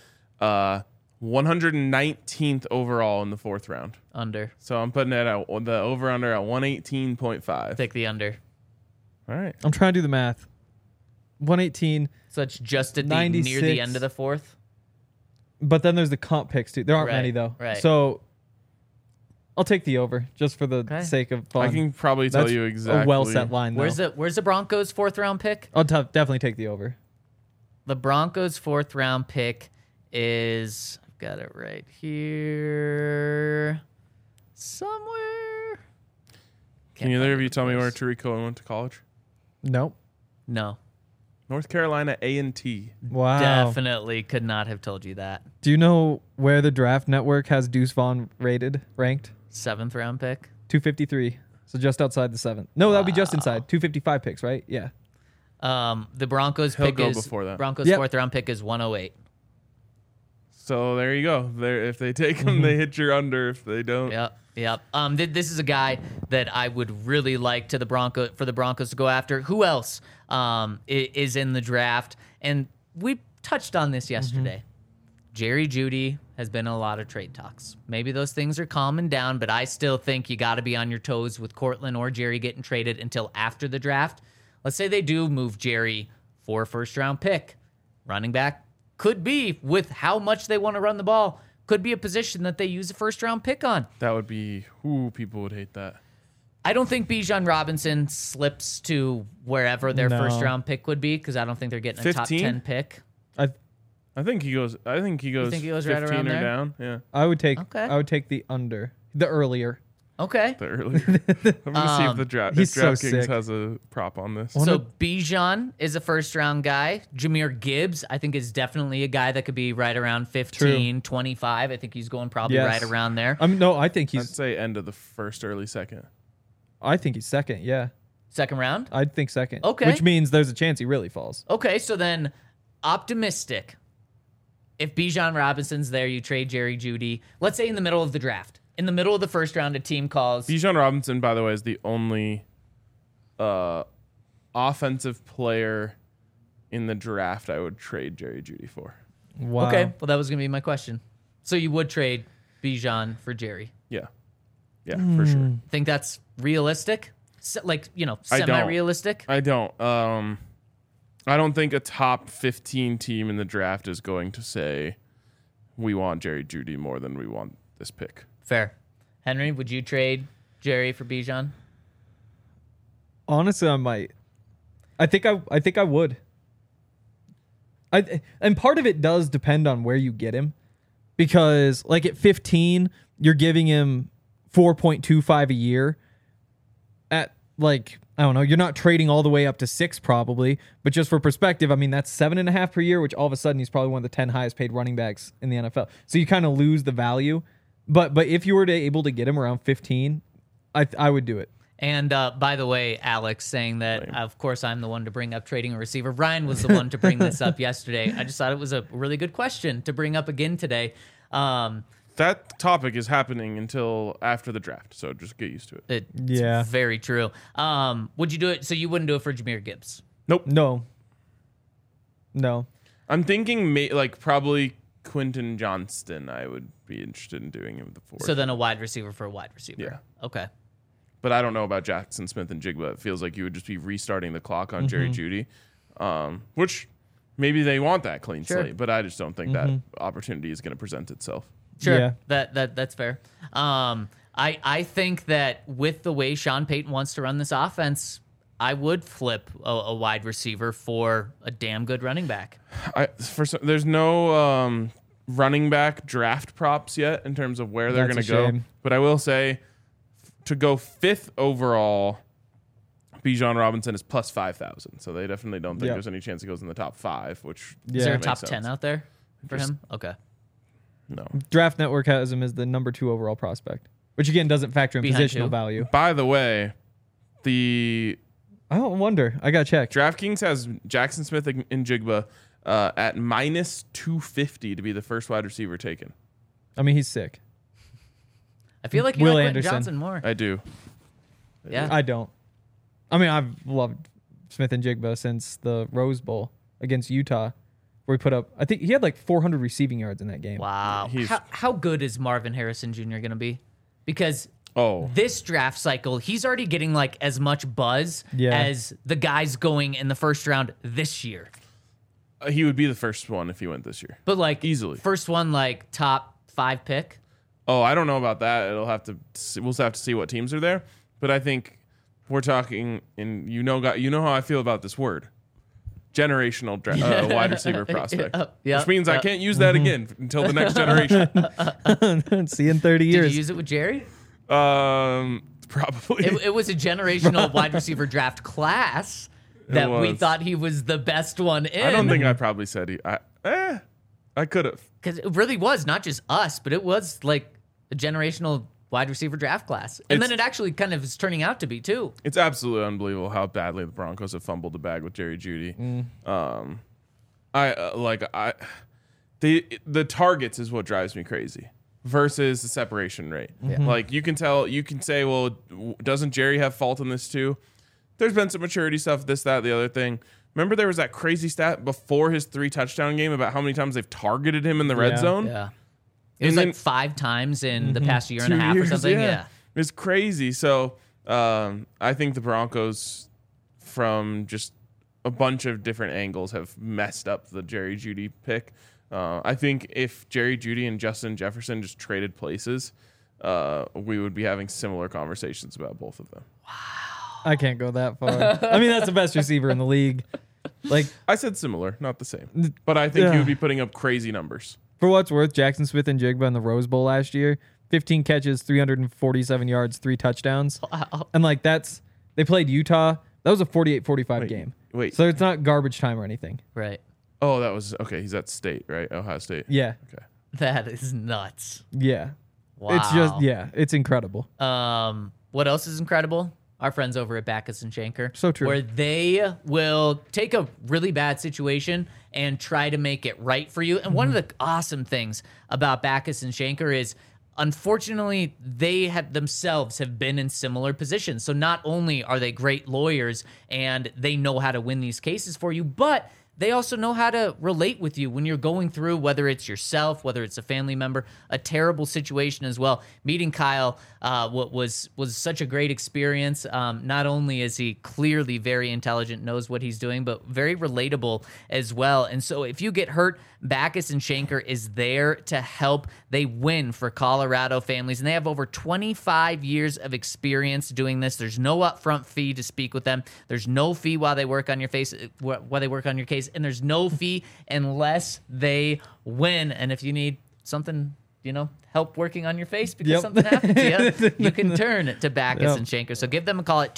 119th overall in the 4th round. Under. So I'm putting it at the over-under at 118.5. Take the under. All right. I'm trying to do the math. 118, So it's just at the near 96. the end of the 4th. but then there's the comp picks too. There aren't Right, many though. right. So I'll take the over just for the Okay. sake of fun. I can probably tell That's you exactly. a well set line though. Where's the Broncos' 4th round pick? I'll definitely take the over. The Broncos' 4th round pick is, I've got it right here somewhere. Can either of you tell me where Tariq Cohen went to college? Nope. No, North Carolina A&T. Wow. definitely could not have told you that. Do you know where the Draft Network has Deuce Vaughn ranked? 7th round pick. 253. So just outside the 7th. No, that would be just inside. 255 picks, right? Yeah. The Broncos He'll pick go is before that. Broncos Yep. 4th round pick is 108. So there you go. There, if they take him, they hit your under. If they don't, Yep. This is a guy that I would really like for the Broncos to go after. Who else is in the draft? And we touched on this yesterday. Jerry Jeudy has been in a lot of trade talks. Maybe those things are calming down, but I still think you got to be on your toes with Cortland or Jerry getting traded until after the draft. Let's say they do move Jerry for a first-round pick. Running back could be, with how much they want to run the ball, could be a position that they use a first-round pick on. that would be. Ooh, people would hate that. I don't think Bijan Robinson slips to wherever their No. first-round pick would be because I don't think they're getting a top 15? 10 pick. I think he goes. think he goes 15 right or around there? down. Yeah, I would take the under. The earlier. Okay. the earlier. I'm gonna see if the draft. he's so DraftKings sick. has a prop on this. So Bijan is a first-round guy. Jameer Gibbs, I think, is definitely a guy that could be right around 15, 25. I think he's going probably Yes. right around there. No, I think I'd he's say end of the first, early second. second, yeah. Second round? I'd think second. Okay. Which means there's a chance he really falls. Okay, so then optimistic. If Bijan Robinson's there, you trade Jerry Jeudy. Let's say in the middle of the draft. In the middle of the first round, a team calls. Bijan Robinson, by the way, is the only offensive player in the draft I would trade Jerry Jeudy for. Wow. Okay, well, that was going to be my question. So you would trade Bijan for Jerry. Yeah, for sure. Think that's realistic? I don't. Semi-realistic? I don't. I don't think a top 15 team in the draft is going to say we want Jerry Jeudy more than we want this pick. Fair. Henry, would you trade Jerry for Bijan? Honestly, I might. I think I would. And part of it does depend on where you get him, because like at 15, you're giving him 4.25 a year. At like, I don't know, you're not trading all the way up to 6 probably, but just for perspective, I mean that's 7.5 per year, which all of a sudden he's probably one of the 10 highest paid running backs in the NFL. So you kind of lose the value. But if you were able to get him around 15, I would do it. And by the way, Alex saying that, of course, I'm the one to bring up trading a receiver. Ryan was the one to bring this up yesterday. I just thought it was a really good question to bring up again today. That topic is happening until after the draft, so just get used to it. It's Yeah. very true. Would you do it? So you wouldn't do it for Jameer Gibbs? Nope. No. I'm thinking probably Quentin Johnston. I would be interested in doing him the fourth. So then a wide receiver for a wide receiver. Yeah. Okay. But I don't know about Jackson Smith and Jigba. It feels like you would just be restarting the clock on Jerry Jeudy, which maybe they want that clean Sure. slate, but I just don't think that opportunity is going to present itself. Sure. Yeah. That's fair. I think that with the way Sean Payton wants to run this offense, I would flip a wide receiver for a damn good running back. There's no running back draft props yet in terms of where they're going That's to a go. shame. But I will say, to go 5th overall, Bijan Robinson is plus 5,000. So they definitely don't think Yep. there's any chance he goes in the top 5, which Is there a makes top sense. 10 out there for Just- him? Okay. No. Draft Network has him as the number 2 overall prospect, which again doesn't factor in Behind positional who? value. By the way, the I don't wonder. I got to check. DraftKings has Jackson Smith and Jigba at minus 250 to be the first wide receiver taken. I mean, he's sick. I feel like you Will like Quentin Anderson. Johnson more. I do. Yeah. I don't. I mean, I've loved Smith and Jigba since the Rose Bowl against Utah, where he put up, I think he had like 400 receiving yards in that game. Wow. He's- How good is Marvin Harrison Jr. going to be? Because Oh, this draft cycle, he's already getting like as much buzz Yeah. as the guys going in the first round this year. he would be the first one if he went this year. But like Easily. first one, like top 5 pick. Oh, I don't know about that. We'll have to see what teams are there. But I think we're talking, and you know how I feel about this word, generational wide receiver prospect, Yep, which means I yep. can't use that again until the next generation. See you in 30 Did years. you use it with Jerry? Probably. It was a generational wide receiver draft class that we was. thought he was the best one in. I don't think I probably said I could have. Because it really was not just us, but it was like a generational wide receiver draft class. And then it actually kind of is turning out to be, too. It's absolutely unbelievable how badly the Broncos have fumbled the bag with Jerry Jeudy. The targets is what drives me crazy versus the separation rate. Like you can say, well, doesn't Jerry have fault in this too? There's been some maturity stuff, this, that, the other thing. Remember there was that crazy stat before his 3 touchdown game about how many times they've targeted him in the red zone? Yeah. It was like 5 times in the past year and a half or something. Yeah. It's crazy. So I think the Broncos, from just a bunch of different angles, have messed up the Jerry Jeudy pick. I think if Jerry Jeudy and Justin Jefferson just traded places, we would be having similar conversations about both of them. I can't go that far. I mean, that's the best receiver in the league. Like, I said similar, not the same. But I think he would be putting up crazy numbers. for what it's worth, Jackson Smith and Jigba in the Rose Bowl last year, 15 catches, 347 yards, 3 touchdowns. Wow. And like they played Utah. That was a 48-45 game. Wait. So it's not garbage time or anything. Right. Oh, that was okay. He's at State, right? Ohio State. Yeah. Okay. That is nuts. Yeah. Wow. It's just, it's incredible. What else is incredible? Our friends over at Backus and Shanker. So true. Where they will take a really bad situation and try to make it right for you. And one of the awesome things about Backus and Shanker is, unfortunately, they have themselves have been in similar positions. So not only are they great lawyers and they know how to win these cases for you, but they also know how to relate with you when you're going through, whether it's yourself, whether it's a family member, a terrible situation as well. Meeting Kyle was such a great experience. Not only is he clearly very intelligent, knows what he's doing, but very relatable as well. And so if you get hurt, Backus and Shanker is there to help. They win for Colorado families, and they have over 25 years of experience doing this. There's no upfront fee to speak with them. There's no fee while they work on your case, and there's no fee unless they win. And if you need something, help working on your face because something happened to you, you can turn to Backus and Shanker. So give them a call at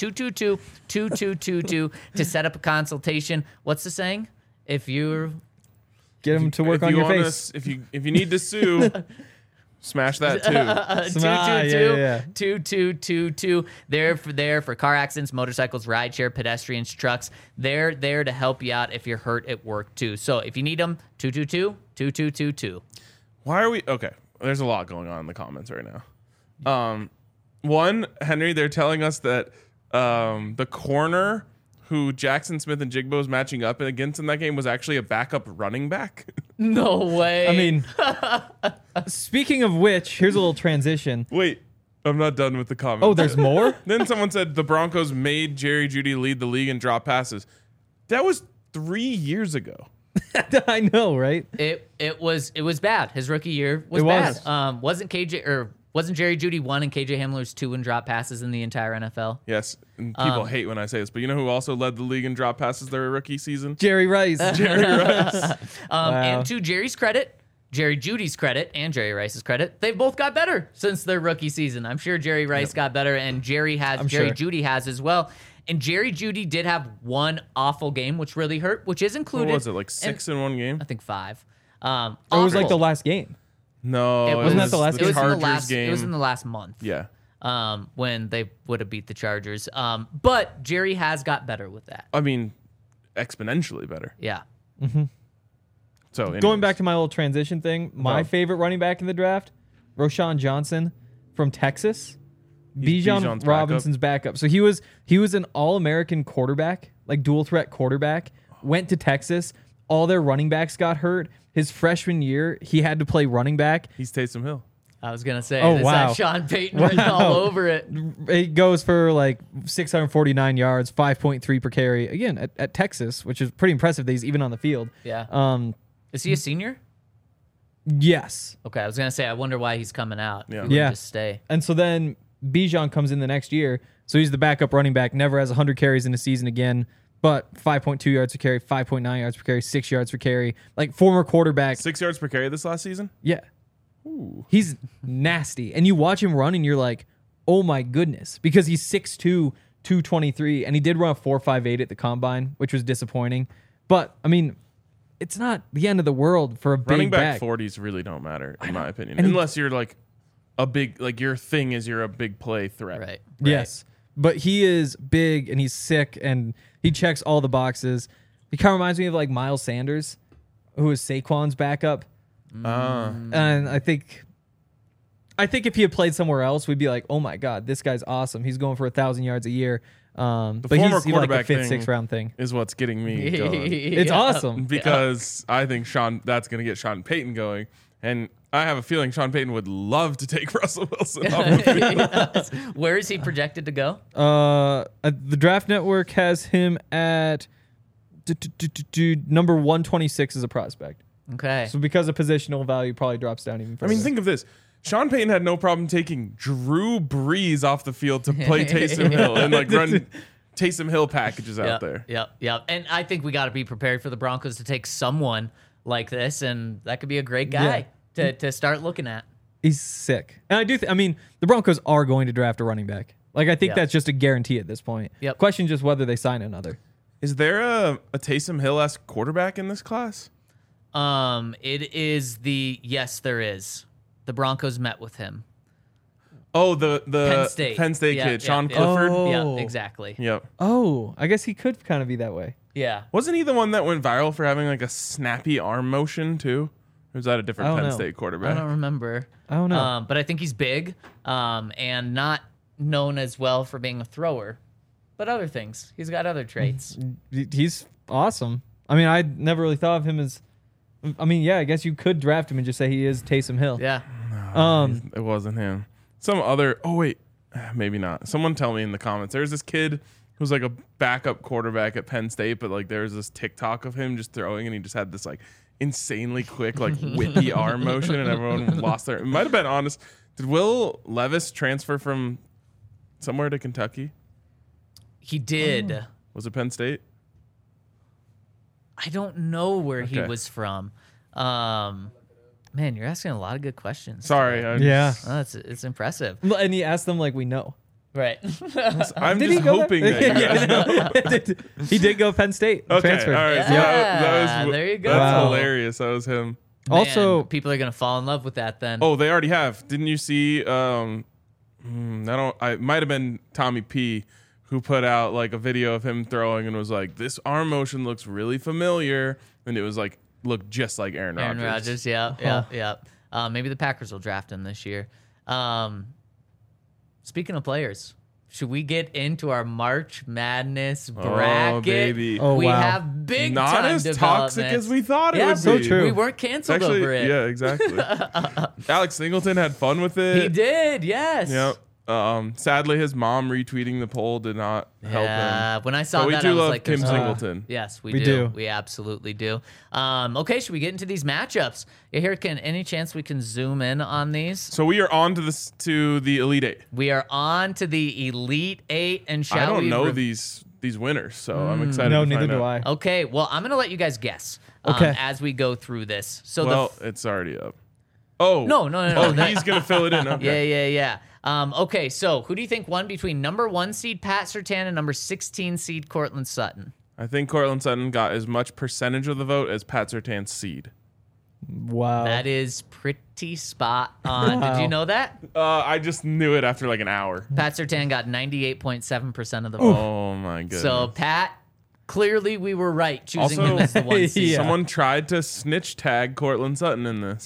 222-2222 to set up a consultation. What's the saying? If you're Get them to work on your face. If you need to sue, smash that too. 222-2222. They're for car accidents, motorcycles, rideshare, pedestrians, trucks. They're there to help you out if you're hurt at work too. So if you need them, 222-2222. Why are we okay? There's a lot going on in the comments right now. One, Henry, they're telling us that the corner who Jackson Smith and Jigba was matching up against in that game was actually a backup running back. No way. I mean, speaking of which, here's a little transition. Wait, I'm not done with the comment. Oh, there's more? Then someone said the Broncos made Jerry Jeudy lead the league in drop passes. That was 3 years ago. I know, right? It was bad. His rookie year was It bad. was. Wasn't Jerry Jeudy 1 and KJ Hamler's 2 in drop passes in the entire NFL? Yes, and people hate when I say this, but you know who also led the league in drop passes their rookie season? Jerry Rice. Jerry Rice. And to Jerry's credit, Jerry Judy's credit, and Jerry Rice's credit, they've both got better since their rookie season. I'm sure Jerry Rice got better, and Jerry Jeudy has as well. And Jerry Jeudy did have one awful game, which really hurt, which is included. What was it, like 6 in one game? I think 5. It was like the last game. No, it Wasn't that the last the game? Chargers game. It was in the last month. Yeah. When they would have beat the Chargers. But Jerry has got better with that. I mean, exponentially better. Yeah. So anyways. Going back to my little transition thing, my favorite running back in the draft, Roschon Johnson from Texas. Bijan's Bijan Robinson's backup. So he was an All-American quarterback, like dual threat quarterback, went to Texas. All their running backs got hurt. His freshman year, he had to play running back. He's Taysom Hill. I was going to say, Oh, is wow. that Sean Payton written all over it? It goes for like 649 yards, 5.3 per carry. Again, at Texas, which is pretty impressive that he's even on the field. Yeah. Is he a senior? Yes. Okay, I was going to say, I wonder why he's coming out. Yeah. He would Yeah. Just stay. And so then Bijan comes in the next year. So he's the backup running back, never has 100 carries in a season again, but 5.2 yards per carry, 5.9 yards per carry, 6 yards per carry. Like former quarterback. 6 yards per carry this last season? Yeah. He's nasty. And you watch him run and you're like, oh my goodness. Because he's 6'2", 223. And he did run a 4.58 at the combine, which was disappointing. But, I mean, it's not the end of the world for a Running big back back. 40s really don't matter, in my opinion. And he- Unless you're like a big, like your thing is you're a big play threat. Right. Yes. But he is big and he's sick and he checks all the boxes. He kind of reminds me of like Miles Sanders, who is Saquon's backup. And I think if he had played somewhere else, we'd be like, oh my God, this guy's awesome. He's going for 1,000 yards a year. But former he's like a quarterback fifth, thing sixth round thing. Is what's getting me going. It's awesome. Because I think that's going to get Sean Payton going. And I have a feeling Sean Payton would love to take Russell Wilson off the field. Where is he projected to go? The Draft Network has him at number 126 as a prospect. Okay. So because of positional value, probably drops down even I further. mean, think of this. Sean Payton had no problem taking Drew Brees off the field to play Taysom Hill and like run Taysom Hill packages out there. Yep. And I think we got to be prepared for the Broncos to take someone like this, and that could be a great guy to start looking at. He's sick. And I do I mean, the Broncos are going to draft a running back. Like, I think Yep. that's just a guarantee at this point. Yep. Question just whether they sign another. Is there a Taysom Hill-esque quarterback in this class? It is yes, there is. The Broncos met with him. Oh, the Penn State. Yeah, kid, Sean yeah. Clifford. Oh. Yeah, exactly. Yep. Oh, I guess he could kind of be that way. Yeah. Wasn't he the one that went viral for having like a snappy arm motion too? Or was that a different I don't Penn know. State I quarterback? don't remember. I don't know. But I think he's big, and not known as well for being a thrower, but other things. He's got other traits. He's awesome. I mean, I never really thought of him as. I mean, yeah, I guess you could draft him and just say he is Taysom Hill. Yeah. It wasn't him. Some other. Oh wait, maybe not. Someone tell me in the comments. There's this kid who's like a backup quarterback at Penn State, but like there's this TikTok of him just throwing, and he just had this like insanely quick, like whippy arm motion, and everyone lost their. It might have been honest. Did Will Levis transfer from somewhere to Kentucky? He did. Was it Penn State? I don't know where he Okay. was from. Man, you're asking a lot of good questions. Sorry. Yeah. Oh, it's impressive. And he asked them like we know. Right. I'm Did just he go hoping there? that you guys know. He did go Penn State. Okay, Transferred. all right. So Yeah, that was, there you go. That's Wow. hilarious. That was him. Also, Man, people are gonna fall in love with that then. Oh, they already have. Didn't you see? I might have been Tommy P, who put out like a video of him throwing and was like, "This arm motion looks really familiar," and it was like looked just like Aaron Rodgers. Aaron Rodgers. Yeah. Maybe the Packers will draft him this year. Speaking of players, should we get into our March Madness bracket? baby. Oh, we wow. have big Not time as toxic developments. as we thought it Yeah, would so be. true. We weren't canceled Actually, over it. yeah, exactly. Alex Singleton had fun with it. He did. Yes. Yep. Sadly, his mom retweeting the poll did not help him. Yeah, when I saw But we that, do I was love like, Kim there's no- Singleton. Yes, we We do. do. We absolutely do. Okay, should we get into these matchups? Yeah, here, any chance we can zoom in on these? So we are on to the Elite Eight. We are on to the Elite Eight, and I shall don't we? know these winners, so I'm excited. no, to neither find do out. I. Okay, well, I'm gonna let you guys guess. Okay. As we go through this. So Well, it's already up. Oh No. Oh, That- he's gonna fill it in. Okay. Yeah. Okay, so who do you think won between number 1 seed Pat Surtain and number 16 seed Cortland Sutton? I think Cortland Sutton got as much percentage of the vote as Pat Surtain's seed. Wow. That is pretty spot on. Wow. Did you know that? I just knew it after like an hour. Pat Surtain got 98.7% of the vote. Oh my goodness. So Pat, clearly we were right choosing Also- him as the 1 seed. Yeah. Someone tried to snitch tag Cortland Sutton in this.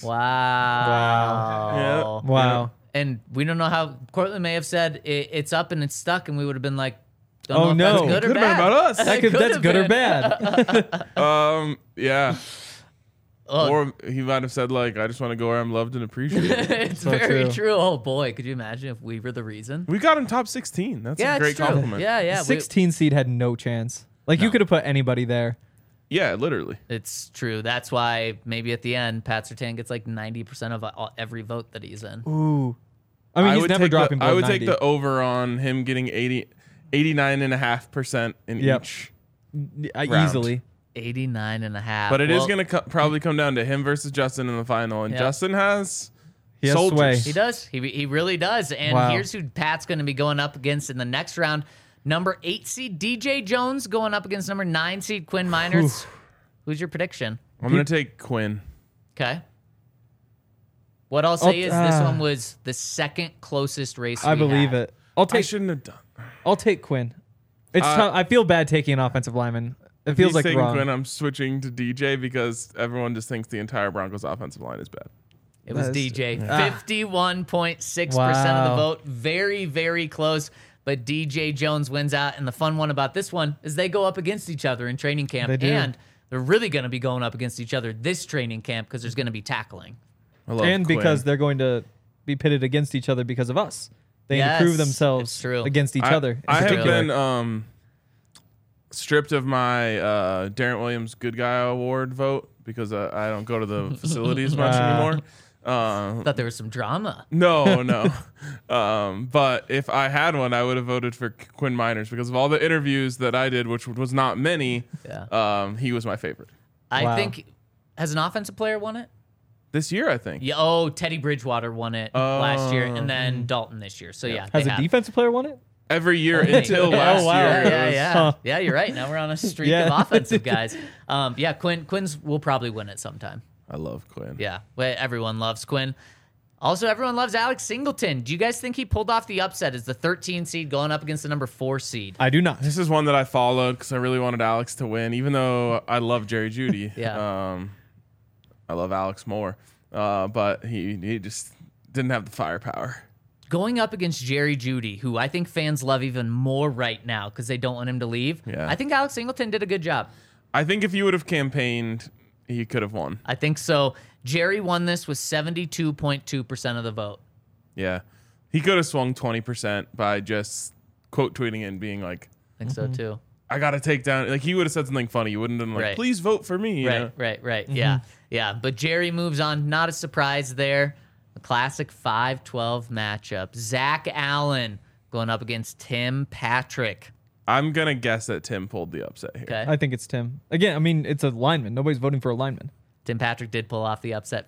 Wow. Wow. And we don't know how Cortland may have said it's up and it's stuck, and we would have been like, don't Oh, know if no. that's good or Could've been bad. about us. That's Could've good or been. bad. Yeah. Oh, Or he might have said like, "I just want to go where I'm loved and appreciated." it's So very true. true. Oh boy, could you imagine if we were the reason? We got him top 16. That's Yeah, a great it's true. compliment. Yeah. 16 seed had no chance. Like you could have put anybody there. Yeah, literally. It's true. That's why maybe at the end, Pat Surtain gets like 90% of every vote that he's in. Ooh. I mean, he's never dropping below I would 90. take the over on him getting 89.5% in Yep. each. Round. Easily. 89.5. But it is Well, going to probably come down to him versus Justin in the final, and Yeah. Justin has He has soldiers. sway. He does. He really does. And Wow. here's who Pat's going to be going up against in the next round. Number 8 seed DJ Jones going up against number 9 seed Quinn Miners. Who's your prediction? I'm going to take Quinn. Okay. What I'll say is this Ah. one was the second closest race I we believe had. it. I'll I take shouldn't have done. I'll take Quinn. It's tough. I feel bad taking an offensive lineman. It If feels he's like taking wrong. Quinn, I'm switching to DJ because everyone just thinks the entire Broncos offensive line is bad. It was That's- DJ. Ah. 51.6% of the Wow. vote. Very, very close. But DJ Jones wins out. And the fun one about this one is they go up against each other in training camp. They do. And they're really going to be going up against each other this training camp because there's going to be tackling. I love And Quinn. because they're going to be pitted against each other because of us. They need Yes, to prove it's themselves true. against each other. in I have particular. been stripped of my Darren Williams Good Guy Award vote because I don't go to the facilities much anymore. Thought there was some drama. No. But if I had one, I would have voted for Quinn Miners because of all the interviews that I did, which was not many. Yeah. He was my favorite I Wow. think, has an offensive player won it? this year, I think. Yeah. Oh, Teddy Bridgewater won it last year, and then Dalton this year. So yeah, Has they a have. defensive player won it? Every year until Oh, last wow. year. Yeah, it yeah, was- yeah. Huh. Yeah, you're right. Now we're on a streak Yeah. of offensive guys. Yeah, Quinn's will probably win it sometime. I love Quinn. Yeah, well, everyone loves Quinn. Also, everyone loves Alex Singleton. Do you guys think he pulled off the upset as the 13 seed going up against the number 4 seed? I do not. This is one that I followed because I really wanted Alex to win, even though I love Jerry Jeudy. Yeah. I love Alex more, but he just didn't have the firepower. Going up against Jerry Jeudy, who I think fans love even more right now because they don't want him to leave. Yeah. I think Alex Singleton did a good job. I think if he would have campaigned, he could have won. I think so. Jerry won this with 72.2% of the vote. Yeah, he could have swung 20% by just quote tweeting and being like, I think so too. "I got to take down." Like he would have said something funny. He wouldn't have been like, Right. "Please vote for me." you know? Right. Yeah. Yeah. But Jerry moves on. Not a surprise there. A classic 5-12 matchup. Zach Allen going up against Tim Patrick. I'm gonna guess that Tim pulled the upset here. Okay. I think it's Tim. Again, I mean, it's a lineman. Nobody's voting for a lineman. Tim Patrick did pull off the upset.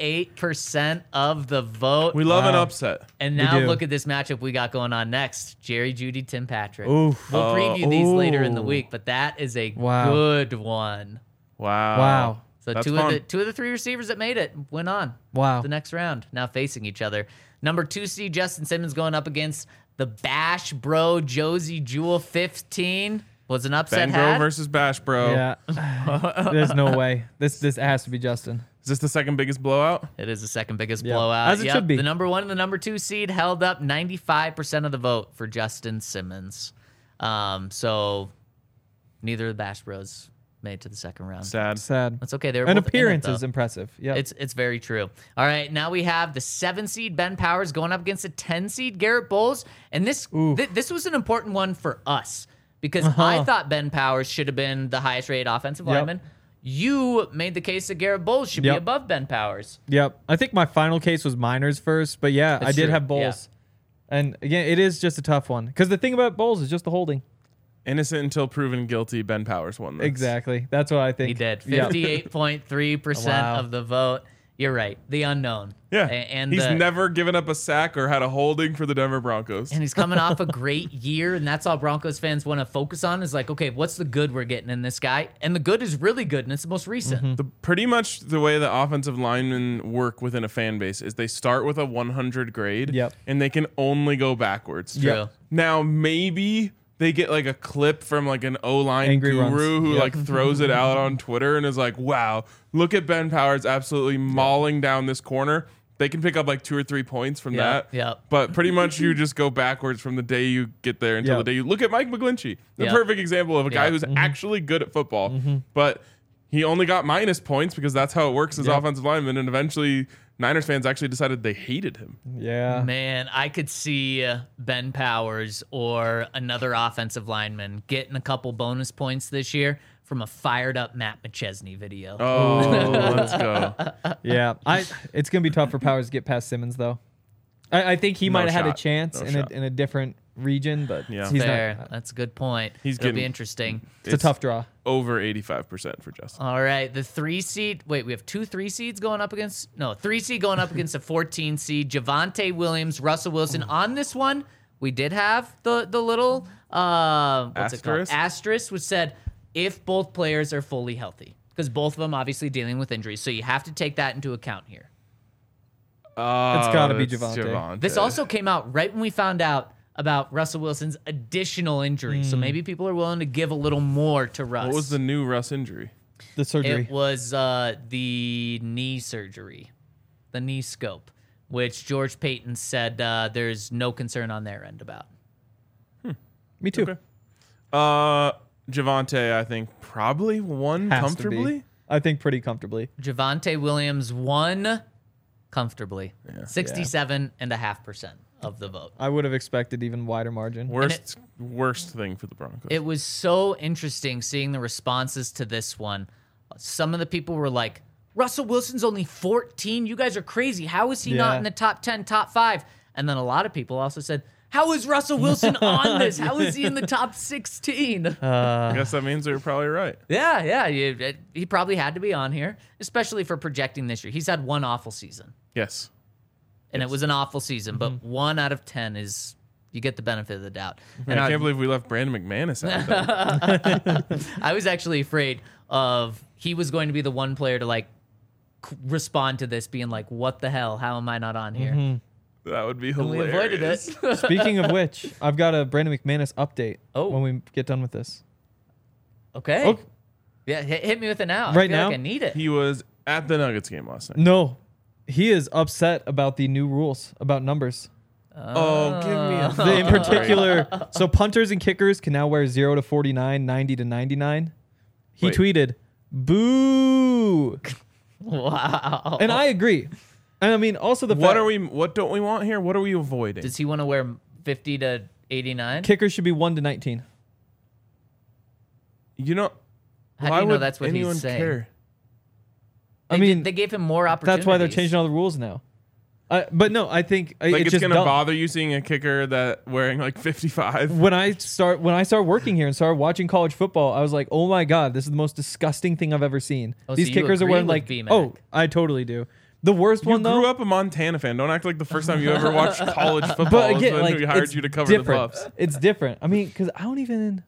58% of the vote. We love an Wow. upset. And We now do. look at this matchup we got going on next. Jerry Jeudy, Tim Patrick. Oof. We'll preview these later in the ooh. week, but that is a Wow. good one. Wow. Wow. So That's two fun. of the 3 receivers that made it went on. Wow. The next round, now facing each other. Number 2 seed Justin Simmons going up against the Bash Bro Josie Jewel 15. Was an upset Ben Bro had. versus Bash Bro. Yeah. There's no way. This has to be Justin. Is this the second biggest blowout? It is the second biggest Yeah. blowout. As it should be. The number 1 and the number 2 seed held up 95% of the vote for Justin Simmons. So neither of the Bash Bros made it to the second round. Sad. Sad. That's okay. They were An both in it, appearance though. is impressive. Yeah. It's very true. All right, now we have the 7 seed Ben Powers going up against the 10 seed Garrett Bowles, and this this was an important one for us because I thought Ben Powers should have been the highest rated offensive Yep. lineman. You made the case that Garrett Bowles should be Yep. above Ben Powers. Yep. I think my final case was Miners first, but yeah, That's I did true. have Bowles. And again, it is just a tough one because the thing about Bowles is just the holding. Innocent until proven guilty. Ben Powers won this. Exactly. That's what I think. He did. Yeah. 58.3% Wow. of the vote. You're right. The unknown. Yeah. And he's the- never given up a sack or had a holding for the Denver Broncos. And he's coming off a great year, and that's all Broncos fans want to focus on is like, okay, what's the good we're getting in this guy? And the good is really good, and it's the most recent. Pretty much the way the offensive linemen work within a fan base is they start with a 100 grade Yep. and they can only go backwards. True. Now, maybe they get like a clip from like an O-line Angry guru runs. who Yep. like throws it out on Twitter and is like, wow, look at Ben Powers absolutely mauling down this corner. They can pick up like 2 or 3 points from that. Yep. But pretty much you just go backwards from the day you get there until Yep. the day you look at Mike McGlinchey. The Yep. perfect example of a guy Yep. who's actually good at football. But he only got minus points because that's how it works as Yep. offensive lineman. And eventually Niners fans actually decided they hated him. Yeah. Man, I could see Ben Powers or another offensive lineman getting a couple bonus points this year from a fired up Matt McChesney video. Oh, let's go. Yeah. It's gonna be tough for Powers to get past Simmons though. I think he No might have had a shot. chance No in shot. a different region, but Yeah. he's Fair. not. That's a good point. He's It'll be getting- interesting. It's a tough draw. Over 85% for Justin. All right, the 3 seed. Wait, we have 2 3 seeds going up against. No, 3 seed going up against a 14 seed. Javonte Williams, Russell Wilson. On this one, we did have the little what's it called? Asterisk? Asterisk, which said if both players are fully healthy, because both of them obviously dealing with injuries, so you have to take that into account here. gotta be it's Javonte. This also came out right when we found out about Russell Wilson's additional injury. So maybe people are willing to give a little more to Russ. What was the new Russ injury? The surgery. It was the knee surgery, the knee scope, which George Payton said there's no concern on their end about. Me too. Okay. Javonte, I think probably won Has to comfortably. be. I think pretty comfortably. Javonte Williams won comfortably, 67.5% of the vote. I would have expected even wider margin. Worst thing for the Broncos. It was so interesting seeing the responses to this one. Some of the people were like, Russell Wilson's only 14. You guys are crazy. How is he not Yeah. in the top 10, top 5? And then a lot of people also said, how is Russell Wilson on this? How is he in the top 16? I guess that means they're probably right. Yeah. He probably had to be on here, especially for projecting this year. He's had one awful season, Yes. and it was an awful season, but 1 out of 10 is, you get the benefit of the doubt. Man, I can't believe we left Brandon McManus out there. I was actually afraid of he was going to be the one player to like respond to this being like, what the hell? How am I not on here? That would be And we hilarious. avoided it. Speaking of which, I've got a Brandon McManus update Oh. when we get done with this. Okay. Oh. Yeah, hit me with it now. I Right feel now? like I need it. He was at the Nuggets game last night. No, he is upset about the new rules about numbers. Oh, give me a In particular, so punters and kickers can now wear 0 to 49, 90 to 99. He Wait. tweeted, "Boo," Wow. and I agree. And I mean, also the What fact what don't we want here? What are we avoiding? Does he want to wear 50 to 89? kickers should be 1 to 19. You know, How why do you know would that's what anyone he's saying? care? I mean, they gave him more opportunities. that's why they're changing all the rules now. But no, I think Like it's it's just gonna dumb. bother you seeing a kicker that wearing like 55. When I start working here and started watching college football, I was like, oh my god, this is the most disgusting thing I've ever seen. Oh, These so you kickers are agree wearing with like, B-Mac. oh, I totally do. The worst You one though. grew up a Montana fan. Don't act like the first time you ever watched college football But was again, when like we hired it's you to cover different. the Buffs. It's different. I mean, because I don't even.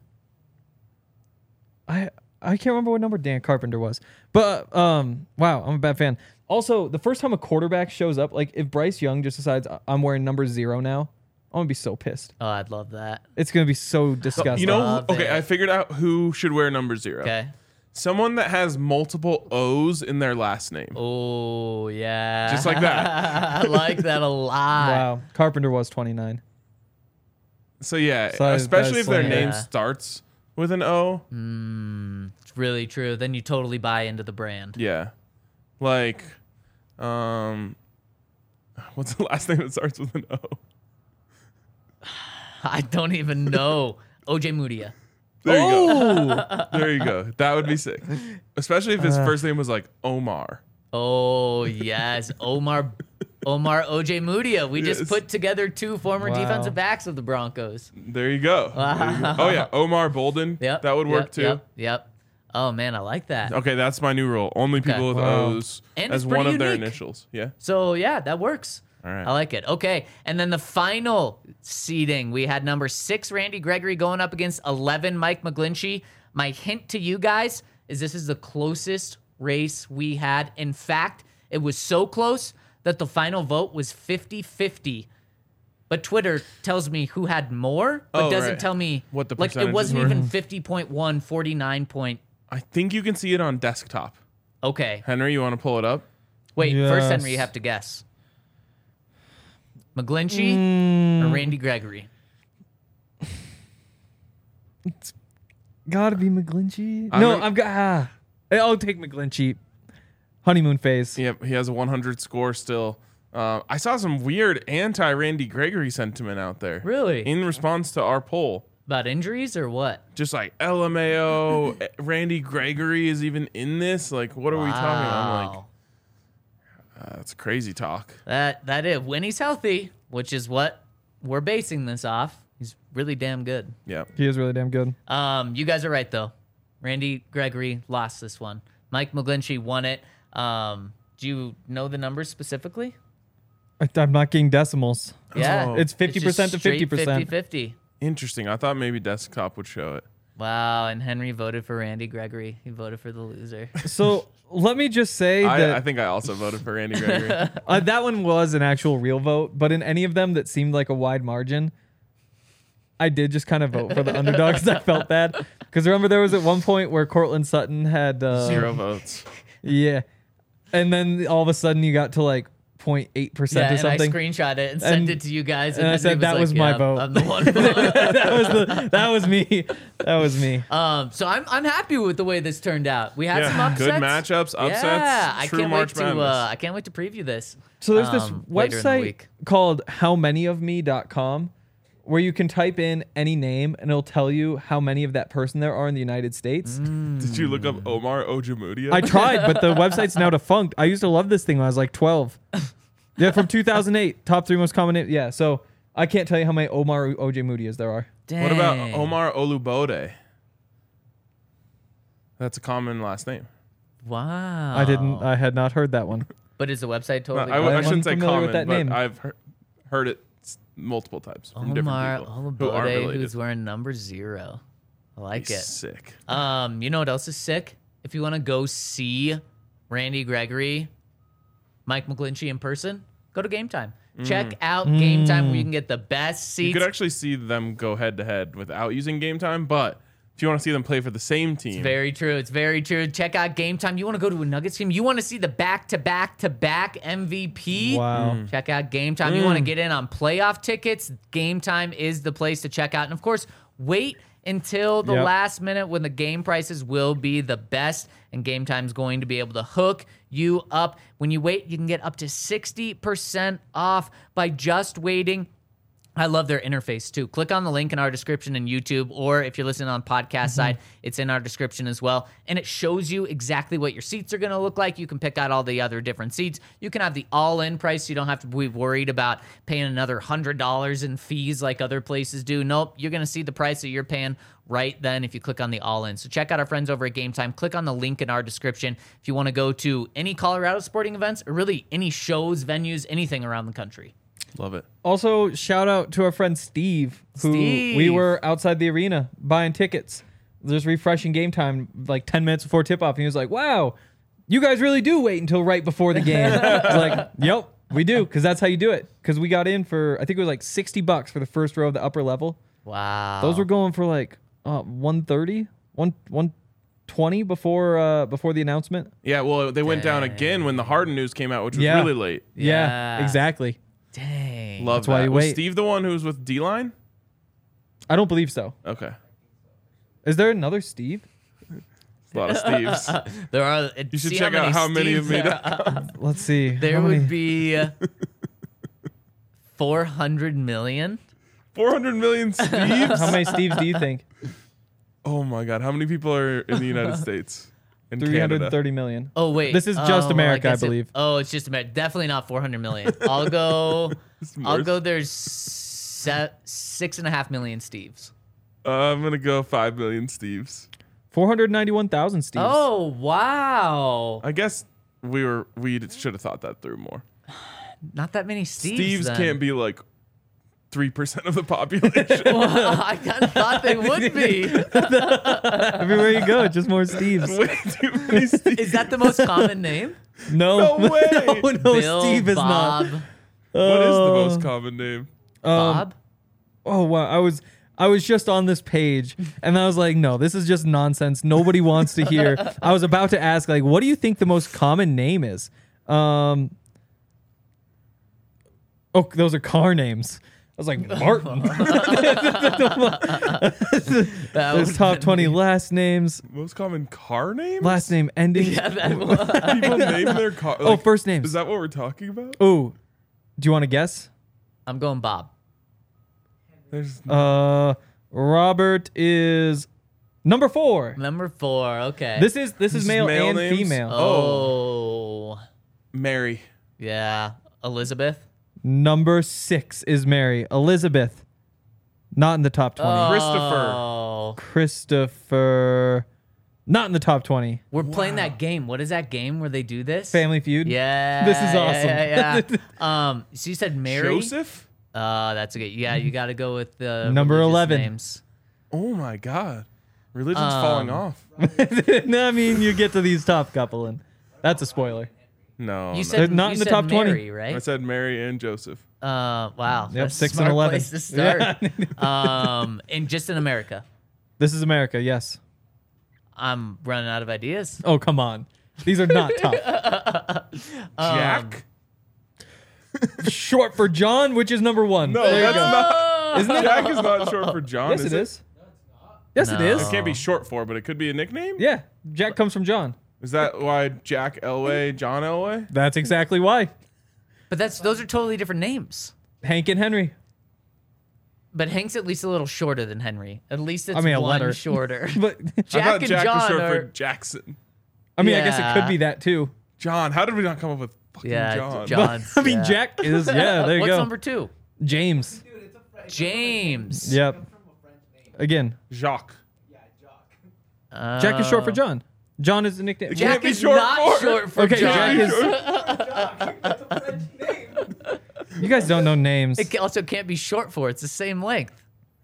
I can't remember what number Dan Carpenter was, but wow, I'm a bad fan. Also, the first time a quarterback shows up, like if Bryce Young just decides I'm wearing number 0 now, I'm gonna be so pissed. Oh, I'd love that. It's gonna be so disgusting. You know, Love okay, it. I figured out who should wear number 0. Okay. Someone that has multiple O's in their last name. Oh, yeah. Just like that. I like that a lot. wow, Carpenter was 29. So yeah, So especially that's if their like- name Yeah. starts with an O. It's really true. Then you totally buy into the brand. Yeah. Like what's the last name that starts with an O? I don't even know. OJ Mudia. There you go. Oh, There you go. That would be sick. Especially if his first name was like Omar. Oh, yes. Omar OJ Mudia. We just Yes. put together 2 former Wow. defensive backs of the Broncos. There you go. There you go. Oh yeah, Omar Bolden. Yep. That would work yep, too. Yep. Oh, man, I like that. Okay, that's my new rule. Only people with Wow. O's And as it's one pretty of their unique. initials. Yeah. So, yeah, that works. All right. I like it. Okay. And then the final seeding, we had number 6, Randy Gregory, going up against 11, Mike McGlinchey. My hint to you guys is this is the closest race we had. In fact, it was so close that the final vote was 50-50. But Twitter tells me who had more, but Oh, doesn't right. tell me What the like it percentages wasn't were. even 50.1, 49 point. I think you can see it on desktop. Okay. Henry, you want to pull it up? Wait, first Yes. Henry, you have to guess. McGlinchey or Randy Gregory? gotta be McGlinchey. I'm No, gonna- I've got. I'll take McGlinchey. Honeymoon phase. Yep, he has a 100 score still. I saw some weird anti-Randy Gregory sentiment out there. Really? In response to our poll. About injuries or what? Just like LMAO, Randy Gregory is even in this. Like, what are we talking about? I'm like, Wow. that's crazy talk. That is when he's healthy, which is what we're basing this off. He's really damn good. Yeah. He is really damn good. You guys are right though. Randy Gregory lost this one. Mike McGlinchey won it. Do you know the numbers specifically? I'm not getting decimals. Yeah. Oh. It's 50% to 50%. 50-50. Interesting. I thought maybe desktop would show it. Wow, and Henry voted for Randy Gregory. He voted for the loser. So let me just say I that think I also voted for Randy Gregory. that one was an actual real vote, but in any of them that seemed like a wide margin, I did just kind of vote for the underdog because I felt bad. Because remember, there was at one point where Cortland Sutton had 0 votes. Yeah, and then all of a sudden you got to like 0.8% or and I something. screenshot it and sent And- it to you guys. and I then said he that like, was my "Yeah, vote." I'm the one. that was me. That was me. So I'm happy with the way this turned out. We had some Yeah, upsets. good matchups, upsets. Yeah, I true can't wait March to Madness. I can't wait to preview this. So there's this later in the website week. called howmanyofme.com where you can type in any name and it'll tell you how many of that person there are in the United States. Did you look up Omar Ojemudia? I tried, but the website's now defunct. I used to love this thing when I was like 12. Yeah, from 2008, top 3 most common names. Yeah, so I can't tell you how many Omar Ojemudias there are. Dang. What about Omar Olubode? That's a common last name. Wow. I had not heard that one. But is the website No, totally? I I'm shouldn't say unfamiliar common, with that but name. I've heard it multiple times from different Omar people who aren't Olubode, related. who's wearing number 0. I like He's it. sick. You know what else is sick? If you want to go see Randy Gregory, Mike McGlinchey in person, go to Game Time. Check out Game Time where you can get the best You seats. could actually see them go head to head without using Game Time, but if you want to see them play for the same team, Very true. It's very true. Check out Game Time. You want to go to a Nuggets game? You want to see the back-to-back-to-back MVP? Wow. Check out Game Time. You want to get in on playoff tickets? Game Time is the place to check out. And of course, wait until the Yep. last minute when the game prices will be the best, and Game Time's going to be able to hook you up. When you wait, you can get up to 60% off by just waiting. I love their interface too. Click on the link in our description in YouTube, or if you're listening on podcast side, it's in our description as well. And it shows you exactly what your seats are going to look like. You can pick out all the other different seats. You can have the all-in price. So you don't have to be worried about paying another $100 in fees like other places do. Nope, you're going to see the price that you're paying right then if you click on the all-in. So check out our friends over at Game Time. Click on the link in our description if you want to go to any Colorado sporting events or really any shows, venues, anything around the country. love it. Also, shout out to our friend Steve, who Steve. we were outside the arena buying tickets. There's refreshing Game Time like 10 minutes before tip-off. And he was like, wow, you guys really do wait until right before the game. I was like, yep, we do, because that's how you do it. Because we got in for, I think it was like $60 for the first row of the upper level. Wow. Those were going for like 130, 120 before the announcement. Yeah, well, they went down again when the Harden news came out, which was Yeah. really late. Yeah. Exactly. Dang. Love That's why that. you Was wait. Steve the one who was with D-Line? I don't believe so. Okay. Is there another Steve? A lot of Steves. There are. You should check out how many of me. Let's see. There How many- would be 400 million. 400 million Steves? How many Steves do you think? Oh my God. How many people are in the United States? In Canada? 330 million. Oh wait, This is just America, I guess believe. It's just America. Definitely not 400 million. I'll go. I'll worse. go. There's 6.5 million Steves. I'm going to go 5 million Steves. 491,000 Steves. Oh wow, I guess we should have thought that through more. not that many Steves. Steves then. can't be like 3% of the population. Well, I kind of thought they would be. Everywhere you go, just more Steves. Way too many Steves. Is that the most common name? No, No way. no, Bill, Steve is Bob, not. What is the most common name? Bob. Oh wow, I was just on this page and I was like, no, this is just nonsense. Nobody wants to hear. I was about to ask, like, what do you think the most common name is? Oh, those are car names. I was like, Martin. That There's would- top 20 last names. Most common car name? Last name ending. Yeah, that was. People name their car. Oh, first names. Is that what we're talking about? Oh, do you want to guess? I'm going Bob. There's Robert is number 4. Number 4. Okay. This is is male, male and names? female. Oh. Mary. Yeah. Elizabeth. Number 6 is Mary. Elizabeth, not in the top 20. Christopher. Oh. Christopher, not in the top 20. We're playing that game. What is that game where they do this? Family Feud. Yeah. This is awesome. Yeah. So you said Mary. Joseph? That's a good. Yeah, you got to go with the Number religious 11. names. Oh my God. Religion's falling off. No, I mean, you get to these top couple and That's a spoiler. No, You no. said They're not you in the said top 20. Mary, right? I said Mary and Joseph. Wow. Yep, That's 6 a smart and 11. place to start. And just in America. This is America, yes. I'm running out of ideas. Oh, come on. These are not tough. Jack? Short for John, which is number 1. No, There you that's go. not. Isn't it? Jack is not short for John. Yes, it is. Yes, it No. is. It can't be short for, but it could be a nickname. Yeah, Jack comes from John. Is that why Jack Elway, John Elway? That's exactly why. But those are totally different names. Hank and Henry. But Hank's at least a little shorter than Henry. At least it's a one letter. shorter. But I Jack thought and Jack was John short are. for Jackson. I mean, I guess it Yeah. could be that too. John. How did we not come up with fucking Yeah, John? John's. I mean, yeah. Jack is, yeah, there you What's go. number 2? James. Dude, it's a French. James. Yep. From a French name. Again, Jacques. Yeah, Jock. Jack is short for John. John is the nickname. It Jack can't be is short not for- short for Okay, John. Jack is. That's a French name. You guys don't know names. It also can't be short for. It's the same length.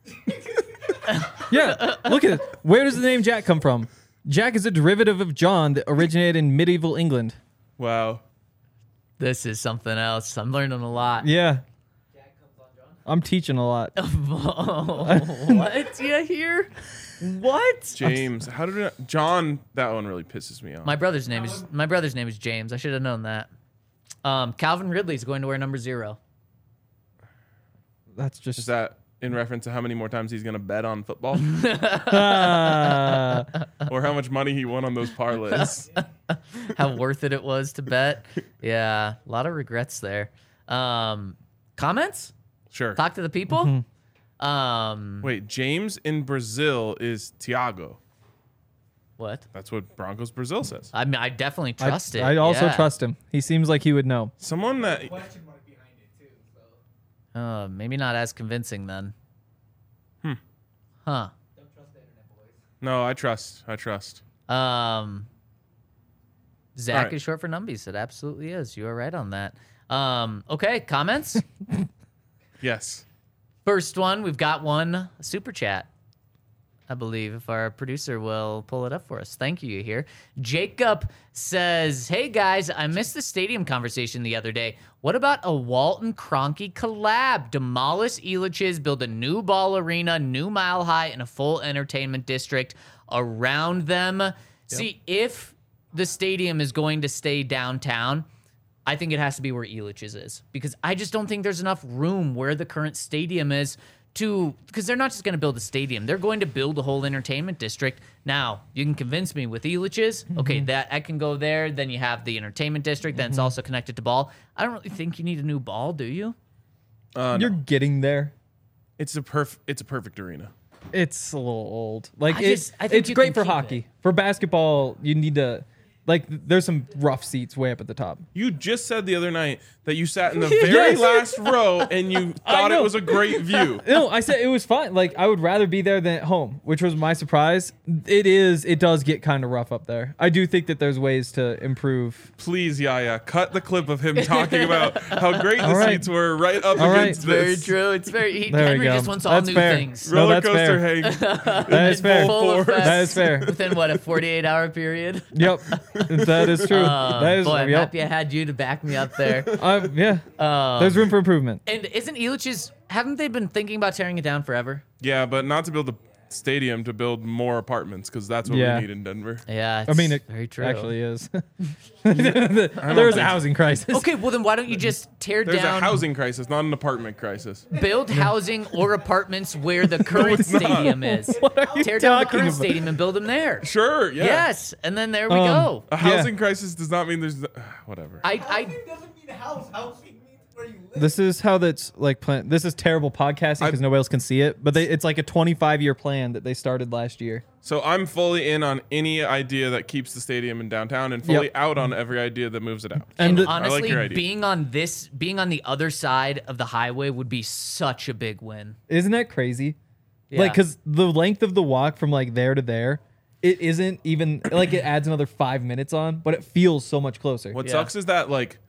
Yeah, look at it. Where does the name Jack come from? Jack is a derivative of John that originated in medieval England. Wow. This is something else. I'm learning a lot. Yeah, Jack comes on John. I'm teaching a lot. What? You hear? What? James. How did it? John. That one really pisses me off. My brother's name is James. I should have known that. Calvin Ridley's going to wear number 0. That's just Is that in reference to how many more times he's going to bet on football, or how much money he won on those parlays? How worth it was to bet. Yeah, a lot of regrets there. Comments? Sure. Talk to the people. Wait, James in Brazil is Thiago. What? That's what Broncos Brazil says. I mean, I definitely trust it. I also yeah. trust him. He seems like he would know. Someone that Question mark behind it too. So Maybe not as convincing then. Huh. don't trust the internet, boys. no, I trust. I trust. Zach All right. is short for numbies. It absolutely is. You are right on that. Okay, comments? Yes. First one, we've got one super chat. I believe if our producer will pull it up for us. Thank you here. Jacob says, "Hey guys, I missed the stadium conversation the other day. What about a Walton Kroenke collab? Demolish Elitch's, build a new ball arena, new Mile High, and a full entertainment district around them." See, if the stadium is going to stay downtown, I think it has to be where Elitch's is, because I just don't think there's enough room where the current stadium is because they're not just going to build a stadium. They're going to build a whole entertainment district. Now, you can convince me with Elitch's. Okay, that I can go there. Then you have the entertainment district. Then it's also connected to ball. I don't really think you need a new ball, do you? You're getting there. It's a perfect arena. It's a little old. Like I think it's you great can for keep hockey. it. For basketball, you need to there's some rough seats way up at the top. You just said the other night that you sat in the very Yes. last row and you thought it know. was a great view. No, I said it was fine. Like I would rather be there than at home, which was my surprise. It does get kind of rough up there. I do think that there's ways to improve. Please, Yaya, cut the clip of him talking about how great the All right. seats were right up All right. against Very this. true. It's very There we Henry go. just wants all That's new fair. things. No, Roller that's coaster fair. Hank. That is fair. Full effect. That is fair. Within what, a 48-hour period? Yep, that is true. That is Boy, I'm yep. happy I had you to back me up there. Yeah, there's room for improvement. And isn't Elitch's, haven't they been thinking about tearing it down forever? Yeah, but not to build a stadium, to build more apartments, because that's what Yeah. we need in Denver. Yeah, I mean, it very true. actually is. There's a housing crisis. Okay, well then why don't you just tear There's down, a housing crisis, not an apartment crisis. build housing or apartments where the current it's not. stadium is. What are you Tear down the talking current about? stadium and build them there. Sure, yeah. Yes, and then there we go. A housing crisis does not mean there's whatever. Housing doesn't mean house. Housing means where you live. This is how that's like plan. This is terrible podcasting because nobody else can see it. But it's like a 25-year plan that they started last year. So I'm fully in on any idea that keeps the stadium in downtown, and fully Yep. out on every idea that moves it out. And the- honestly, your idea. being on the other side of the highway would be such a big win. Isn't that crazy? Yeah. Like, because the length of the walk from like there to there, it isn't even like it adds another 5 minutes on, but it feels so much closer. What Yeah. sucks is that like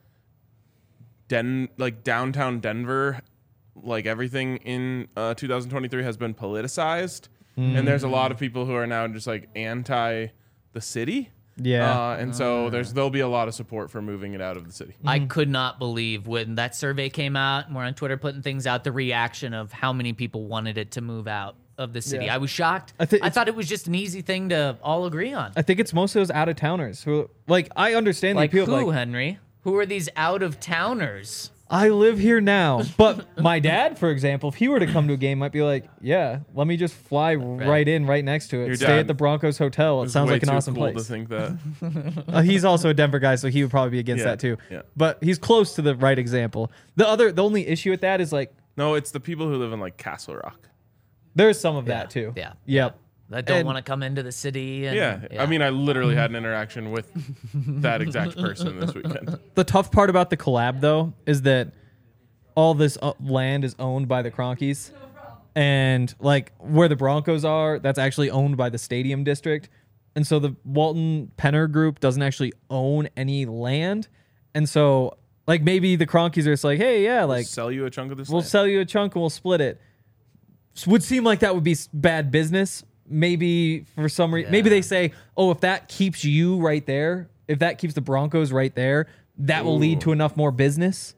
downtown Denver, like everything in 2023 has been politicized, and there's a lot of people who are now just like anti the city. Yeah. And so there'll be a lot of support for moving it out of the city. I could not believe when that survey came out and we're on Twitter putting things out, the reaction of how many people wanted it to move out of the city. Yeah. I was shocked. I think I it's- thought it was just an easy thing to all agree on. I think it's most of those out of towners who, like, I understand the Like appeal. who, Like, Henry? Who are these out of towners? I live here now, but my dad, for example, if he were to come to a game, might be like, yeah, let me just fly right in, right next to it. Your Stay dad at the Broncos hotel. It It's sounds way like an too awesome cool place. to think that. He's also a Denver guy, so he would probably be against Yeah, that too. yeah. But he's close to the right example. The only issue with that is like No, it's the people who live in like Castle Rock. there's some of that too. Yeah. Yep. That don't And- want to come into the city. And, Yeah. I mean, I literally had an interaction with that exact person this weekend. The tough part about the collab though is that all this land is owned by the Cronkies, and like where the Broncos are, that's actually owned by the stadium district, and so the Walton Penner group doesn't actually own any land, and so like maybe the Cronkies are just like, hey, yeah, like Sell you a chunk of this. we'll land. sell you a chunk and we'll split it. Would seem like that would be bad business. Maybe for some reason, maybe they say, oh, if that keeps you right there, if that keeps the Broncos right there, that will lead to enough more business.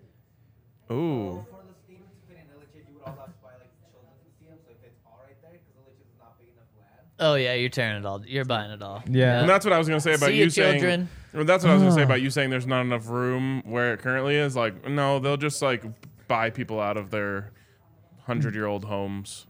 Ooh. For the stadium to fit in LHS, you would also have to buy like the children's museum, so if it's all right there, because LHS is not big enough land. Oh yeah, you're tearing it all. You're buying it all. Yeah. And that's what I was gonna say about See you ya, saying. children. Well, that's what I was gonna say about you saying there's not enough room where it currently is. Like, no, they'll just like buy people out of their 100-year-old homes.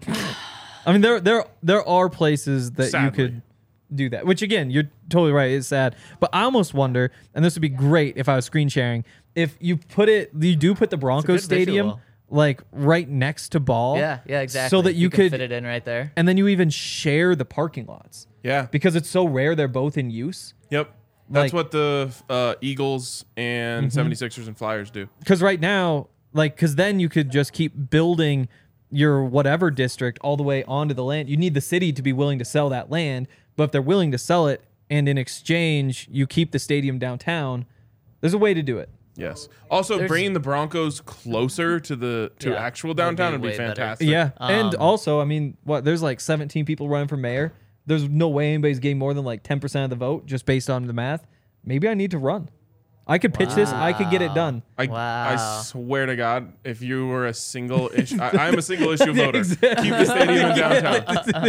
I mean, there are places that Sadly. you could do that. Which again, you're totally right. It's sad, but I almost wonder, and this would be great if I was screen sharing. If you do put the Broncos good stadium visual. like right next to Ball. Yeah, exactly. So that you can could fit it in right there. and then you even share the parking lots Yeah. because it's so rare they're both in use. Yep. That's Like- what the Eagles and 76ers and Flyers do. Because right now, like, because then you could just keep building your whatever district all the way onto the land. You need the city to be willing to sell that land, but if they're willing to sell it and in exchange you keep the stadium downtown, there's a way to do it. Yes. Also, There's- bringing the Broncos closer to the Yeah, actual would be downtown would be way better. fantastic. Yeah, and Um, also, I mean, there's like 17 people running for mayor. There's no way anybody's getting more than like 10% of the vote just based on the math. Maybe I need to run. I could pitch this. I could get it done. I Wow. swear to God, if you were a single issue, I'm a single issue Yeah, voter. exactly. Keep the stadium in downtown. Also, the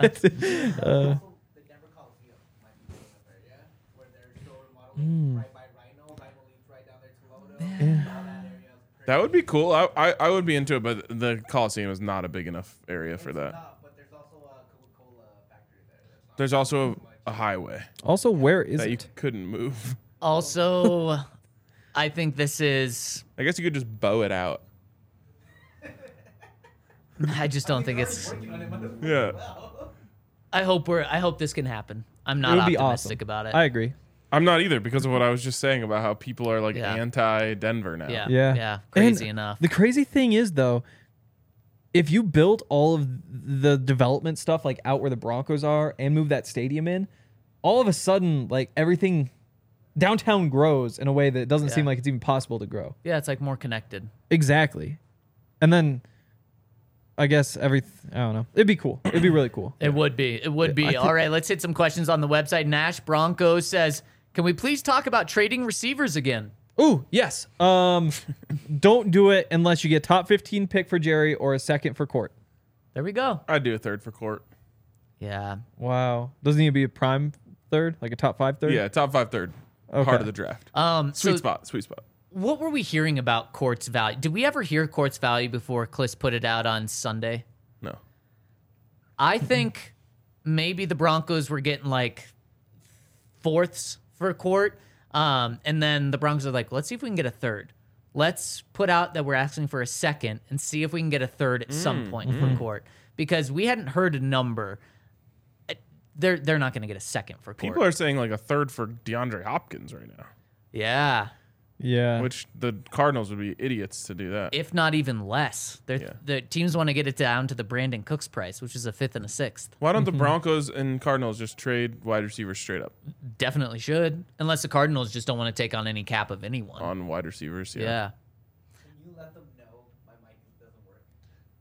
Denver Coliseum might be big enough area where they're still remodeling right by Rhino League's right down there to Lodo. All that area is That would be cool. I would be into it, but the Coliseum is not a big enough area for that. not, but there's also a Coca-Cola factory there. That's not There's also a highway Also, where is that you it? couldn't move. Also, I think this is. I guess you could just bow it out. I just don't think it's. Yeah. I hope this can happen. I'm It not would be optimistic awesome. about it. I agree. I'm not either because of what I was just saying about how people are like Yeah. anti-Denver now. yeah, Yeah. yeah, crazy And enough. The crazy thing is, though, if you built all of the development stuff like out where the Broncos are and move that stadium in, all of a sudden, like everything downtown grows in a way that it doesn't seem Yeah. like it's even possible to grow. Yeah, it's like more connected. Exactly. And then I guess I don't know. It'd be cool. It'd be really cool. It would be. It would I be. think- All right, let's hit some questions on the website. Nash Broncos says, "Can we please talk about trading receivers again?" Ooh, yes. Don't do it unless you get top 15 pick for Jerry or a second for Court. There we go. I'd do a third for Court. Yeah. Wow. Doesn't need to be a prime third, like a top 5 third? Yeah, top 5 third. Okay. Heart of the draft. So Sweet spot. Sweet spot. what were we hearing about Court's value? Did we ever hear Court's value before Kliss put it out on Sunday? No. I think maybe the Broncos were getting like fourths for Court. And then the Broncos are like, let's see if we can get a third. Let's put out that we're asking for a second and see if we can get a third at some point for Court. Because we hadn't heard a number. They're not going to get a second for Court. People are saying like a third for DeAndre Hopkins right now, Yeah. Yeah. which the Cardinals would be idiots to do that. If not even less. Yeah. The teams want to get it down to the Brandon Cooks price, which is a fifth and a sixth. Why don't the Broncos and Cardinals just trade wide receivers straight up Definitely should. Unless the Cardinals just don't want to take on any cap of anyone. on wide receivers? Yeah. Can you let them know my mic doesn't work?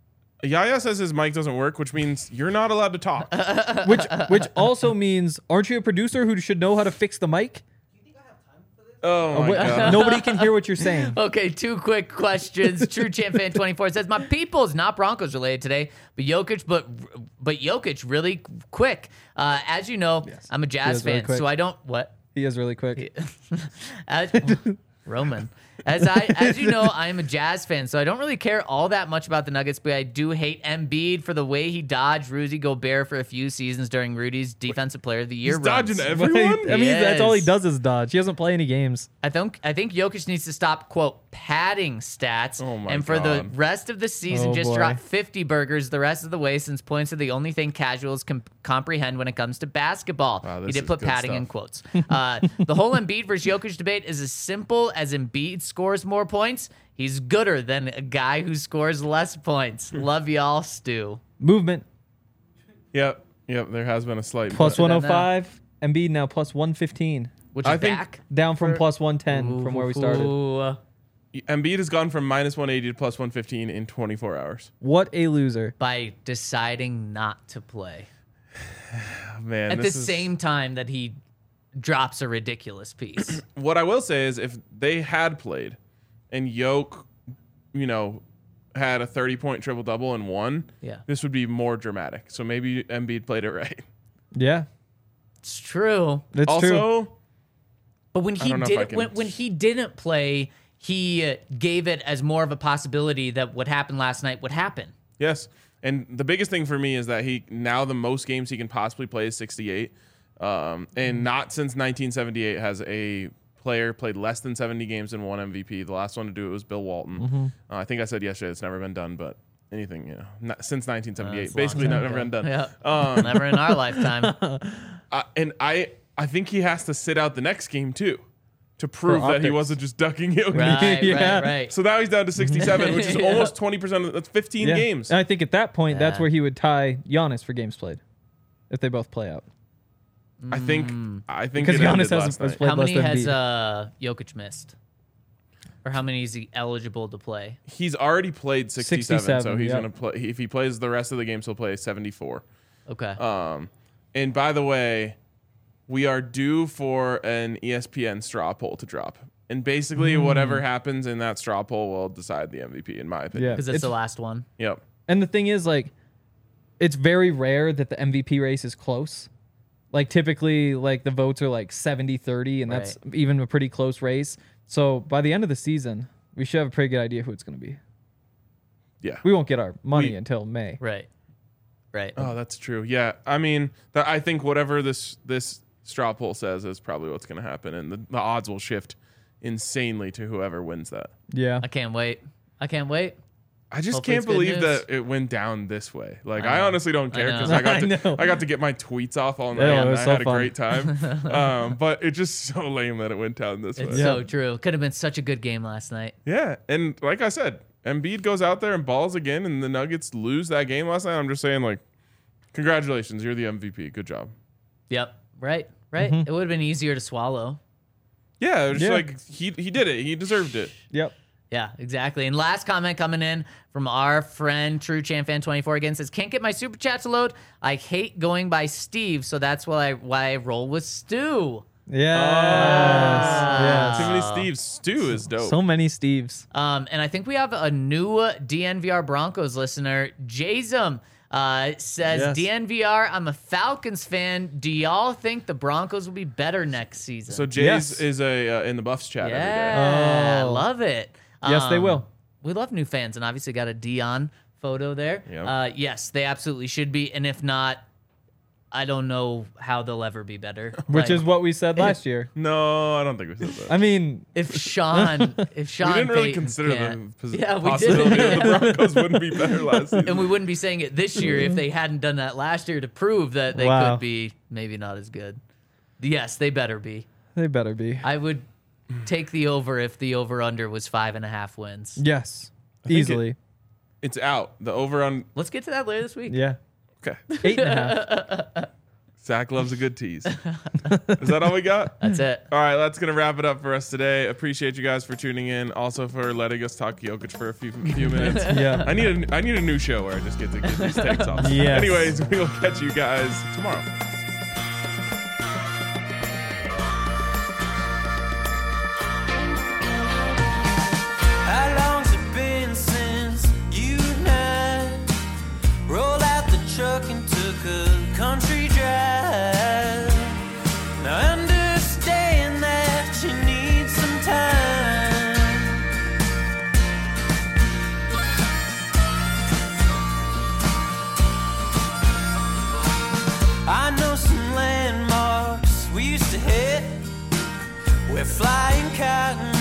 Yaya says his mic doesn't work, which means you're not allowed to talk. Which also means, aren't you a producer who should know how to fix the mic? Oh my god. Nobody can hear what you're saying. Okay, 2 quick questions. True Champ Fan 24 says, my people's not Broncos related today, but Jokic really quick. As you know, I'm a Jazz is really fan, quick. so I don't what? He is really quick. Roman. As you know, I am a Jazz fan, so I don't really care all that much about the Nuggets, but I do hate Embiid for the way he dodged Rudy Gobert for a few seasons during Rudy's Defensive Player of the Year He's runs. dodging everyone. I mean, that's all he Yes. does is dodge. He doesn't play any games. I think Jokic needs to stop, quote, padding stats, Oh my and for the God. rest of the season, Oh just boy. drop 50 burgers the rest of the way, since points are the only thing casuals can comprehend when it comes to basketball. Wow, He this did is put good padding stuff. in quotes. The whole Embiid versus Jokic debate is as simple as Embiid scores more points. He's gooder than a guy who scores less points. Love y'all, Stu. Movement Yep. There has been a slight plus but- 105. Embiid now plus 115. Which I is think- back. Down from plus 110 from where we started. Ooh. Embiid has gone from minus 180 to plus 115 in 24 hours. What a loser. By deciding not to play. Oh, man, At the this is- same time that he drops a ridiculous piece. What I will say is, if they had played, and Yoke, had a 30-point triple double and won, Yeah. this would be more dramatic. So maybe Embiid played it right. Yeah, It's true. that's true. Also, But when he don't know if I did can- when he didn't play, he gave it as more of a possibility that what happened last night would happen. yes. And the biggest thing for me is that now the most games he can possibly play is 68. And not since 1978 has a player played less than 70 games and won MVP. The last one to do it was Bill Walton. I think I said yesterday it's never been done, but anything, since 1978, That's a long basically time never ago. been done. Yeah. Never in our lifetime. And I think he has to sit out the next game too, to prove that he optics. wasn't just ducking Jokic. Right, Yeah. right. So now he's down to 67, which is Yeah. almost 20%. That's 15 Yeah. games. And I think at that point, that's Yeah. where he would tie Giannis for games played, if they both play out. I think Because it Giannis ended has last night. played How less many than has Embiid. Jokic missed? Or how many is he eligible to play? He's already played 67, so 67, he's yeah. gonna play. If he plays the rest of the games, he'll play 74. Okay. And by the way, we are due for an ESPN straw poll to drop, and basically whatever happens in that straw poll will decide the MVP, in my opinion. Yeah. Because it's the last one. Yep. And the thing is, like, it's very rare that the MVP race is close. Like, typically, like, the votes are like 70-30, and that's even a pretty close race. So by the end of the season, we should have a pretty good idea who it's going to be. Yeah. We won't get our money until May. Right. Right. Oh, that's true. Yeah. I mean, I think whatever this straw poll says is probably what's going to happen, and the odds will shift insanely to whoever wins that. Yeah. I can't wait. I can't wait. I just Hopefully can't it's good believe news. that it went down this way. Like, I I know. honestly don't care because know. I got to get my tweets off all night, Yeah, it and was I so had a fun. great time. But it's just so lame that it went down this way. It's so true. Could have been such a good game last night. Yeah, and like I said, Embiid goes out there and balls again, and the Nuggets lose that game last night. I'm just saying, like, congratulations, you're the MVP. Good job. Yep. Right. Right. It would have been easier to swallow. Yeah, it was Yeah. like he did it. He deserved it. Yep. Yeah, exactly. And last comment coming in from our friend True Champ Fan 24 again says, "Can't get my super chat to load. I hate going by Steve, so that's why I roll with Stu." Yes. Yes. Too many Steves. Stu is dope. So many Steves. And I think we have a new DNVR Broncos listener, Jazum. Says, Yes. DNVR, I'm a Falcons fan. Do y'all think the Broncos will be better next season? So Jays Yes. is in the Buffs chat every day. yeah, Oh. love it. Yes, they will. We love new fans, and obviously got a Dion photo there. Yep. Yes, they absolutely should be, and if not, I don't know how they'll ever be better. Which Like, is what we said last year. No, I don't think we said that. I mean, if Sean we didn't really Payton consider can't- the Yeah, we possibility did. that the Broncos wouldn't be better last season. And we wouldn't be saying it this year if they hadn't done that last year to prove that they Wow. could be maybe not as good. Yes, they better be. they better be. I would take the over if the over under was 5.5 wins. Yes. think Easily. It's out. The over on. Let's get to that later this week. Yeah. Okay. 8.5. Zach loves a good tease. Is that all we got? That's it. All right, that's going to wrap it up for us today. Appreciate you guys for tuning in. Also for letting us talk Jokic for a few minutes. Yeah. I need a new show where I just get to get these takes off. Yes. Anyways, we will catch you guys tomorrow. How long's it been since you and I rolled out the truck and took a country drive? Now understand that you need some time. I know some landmarks we used to hit where flying cotton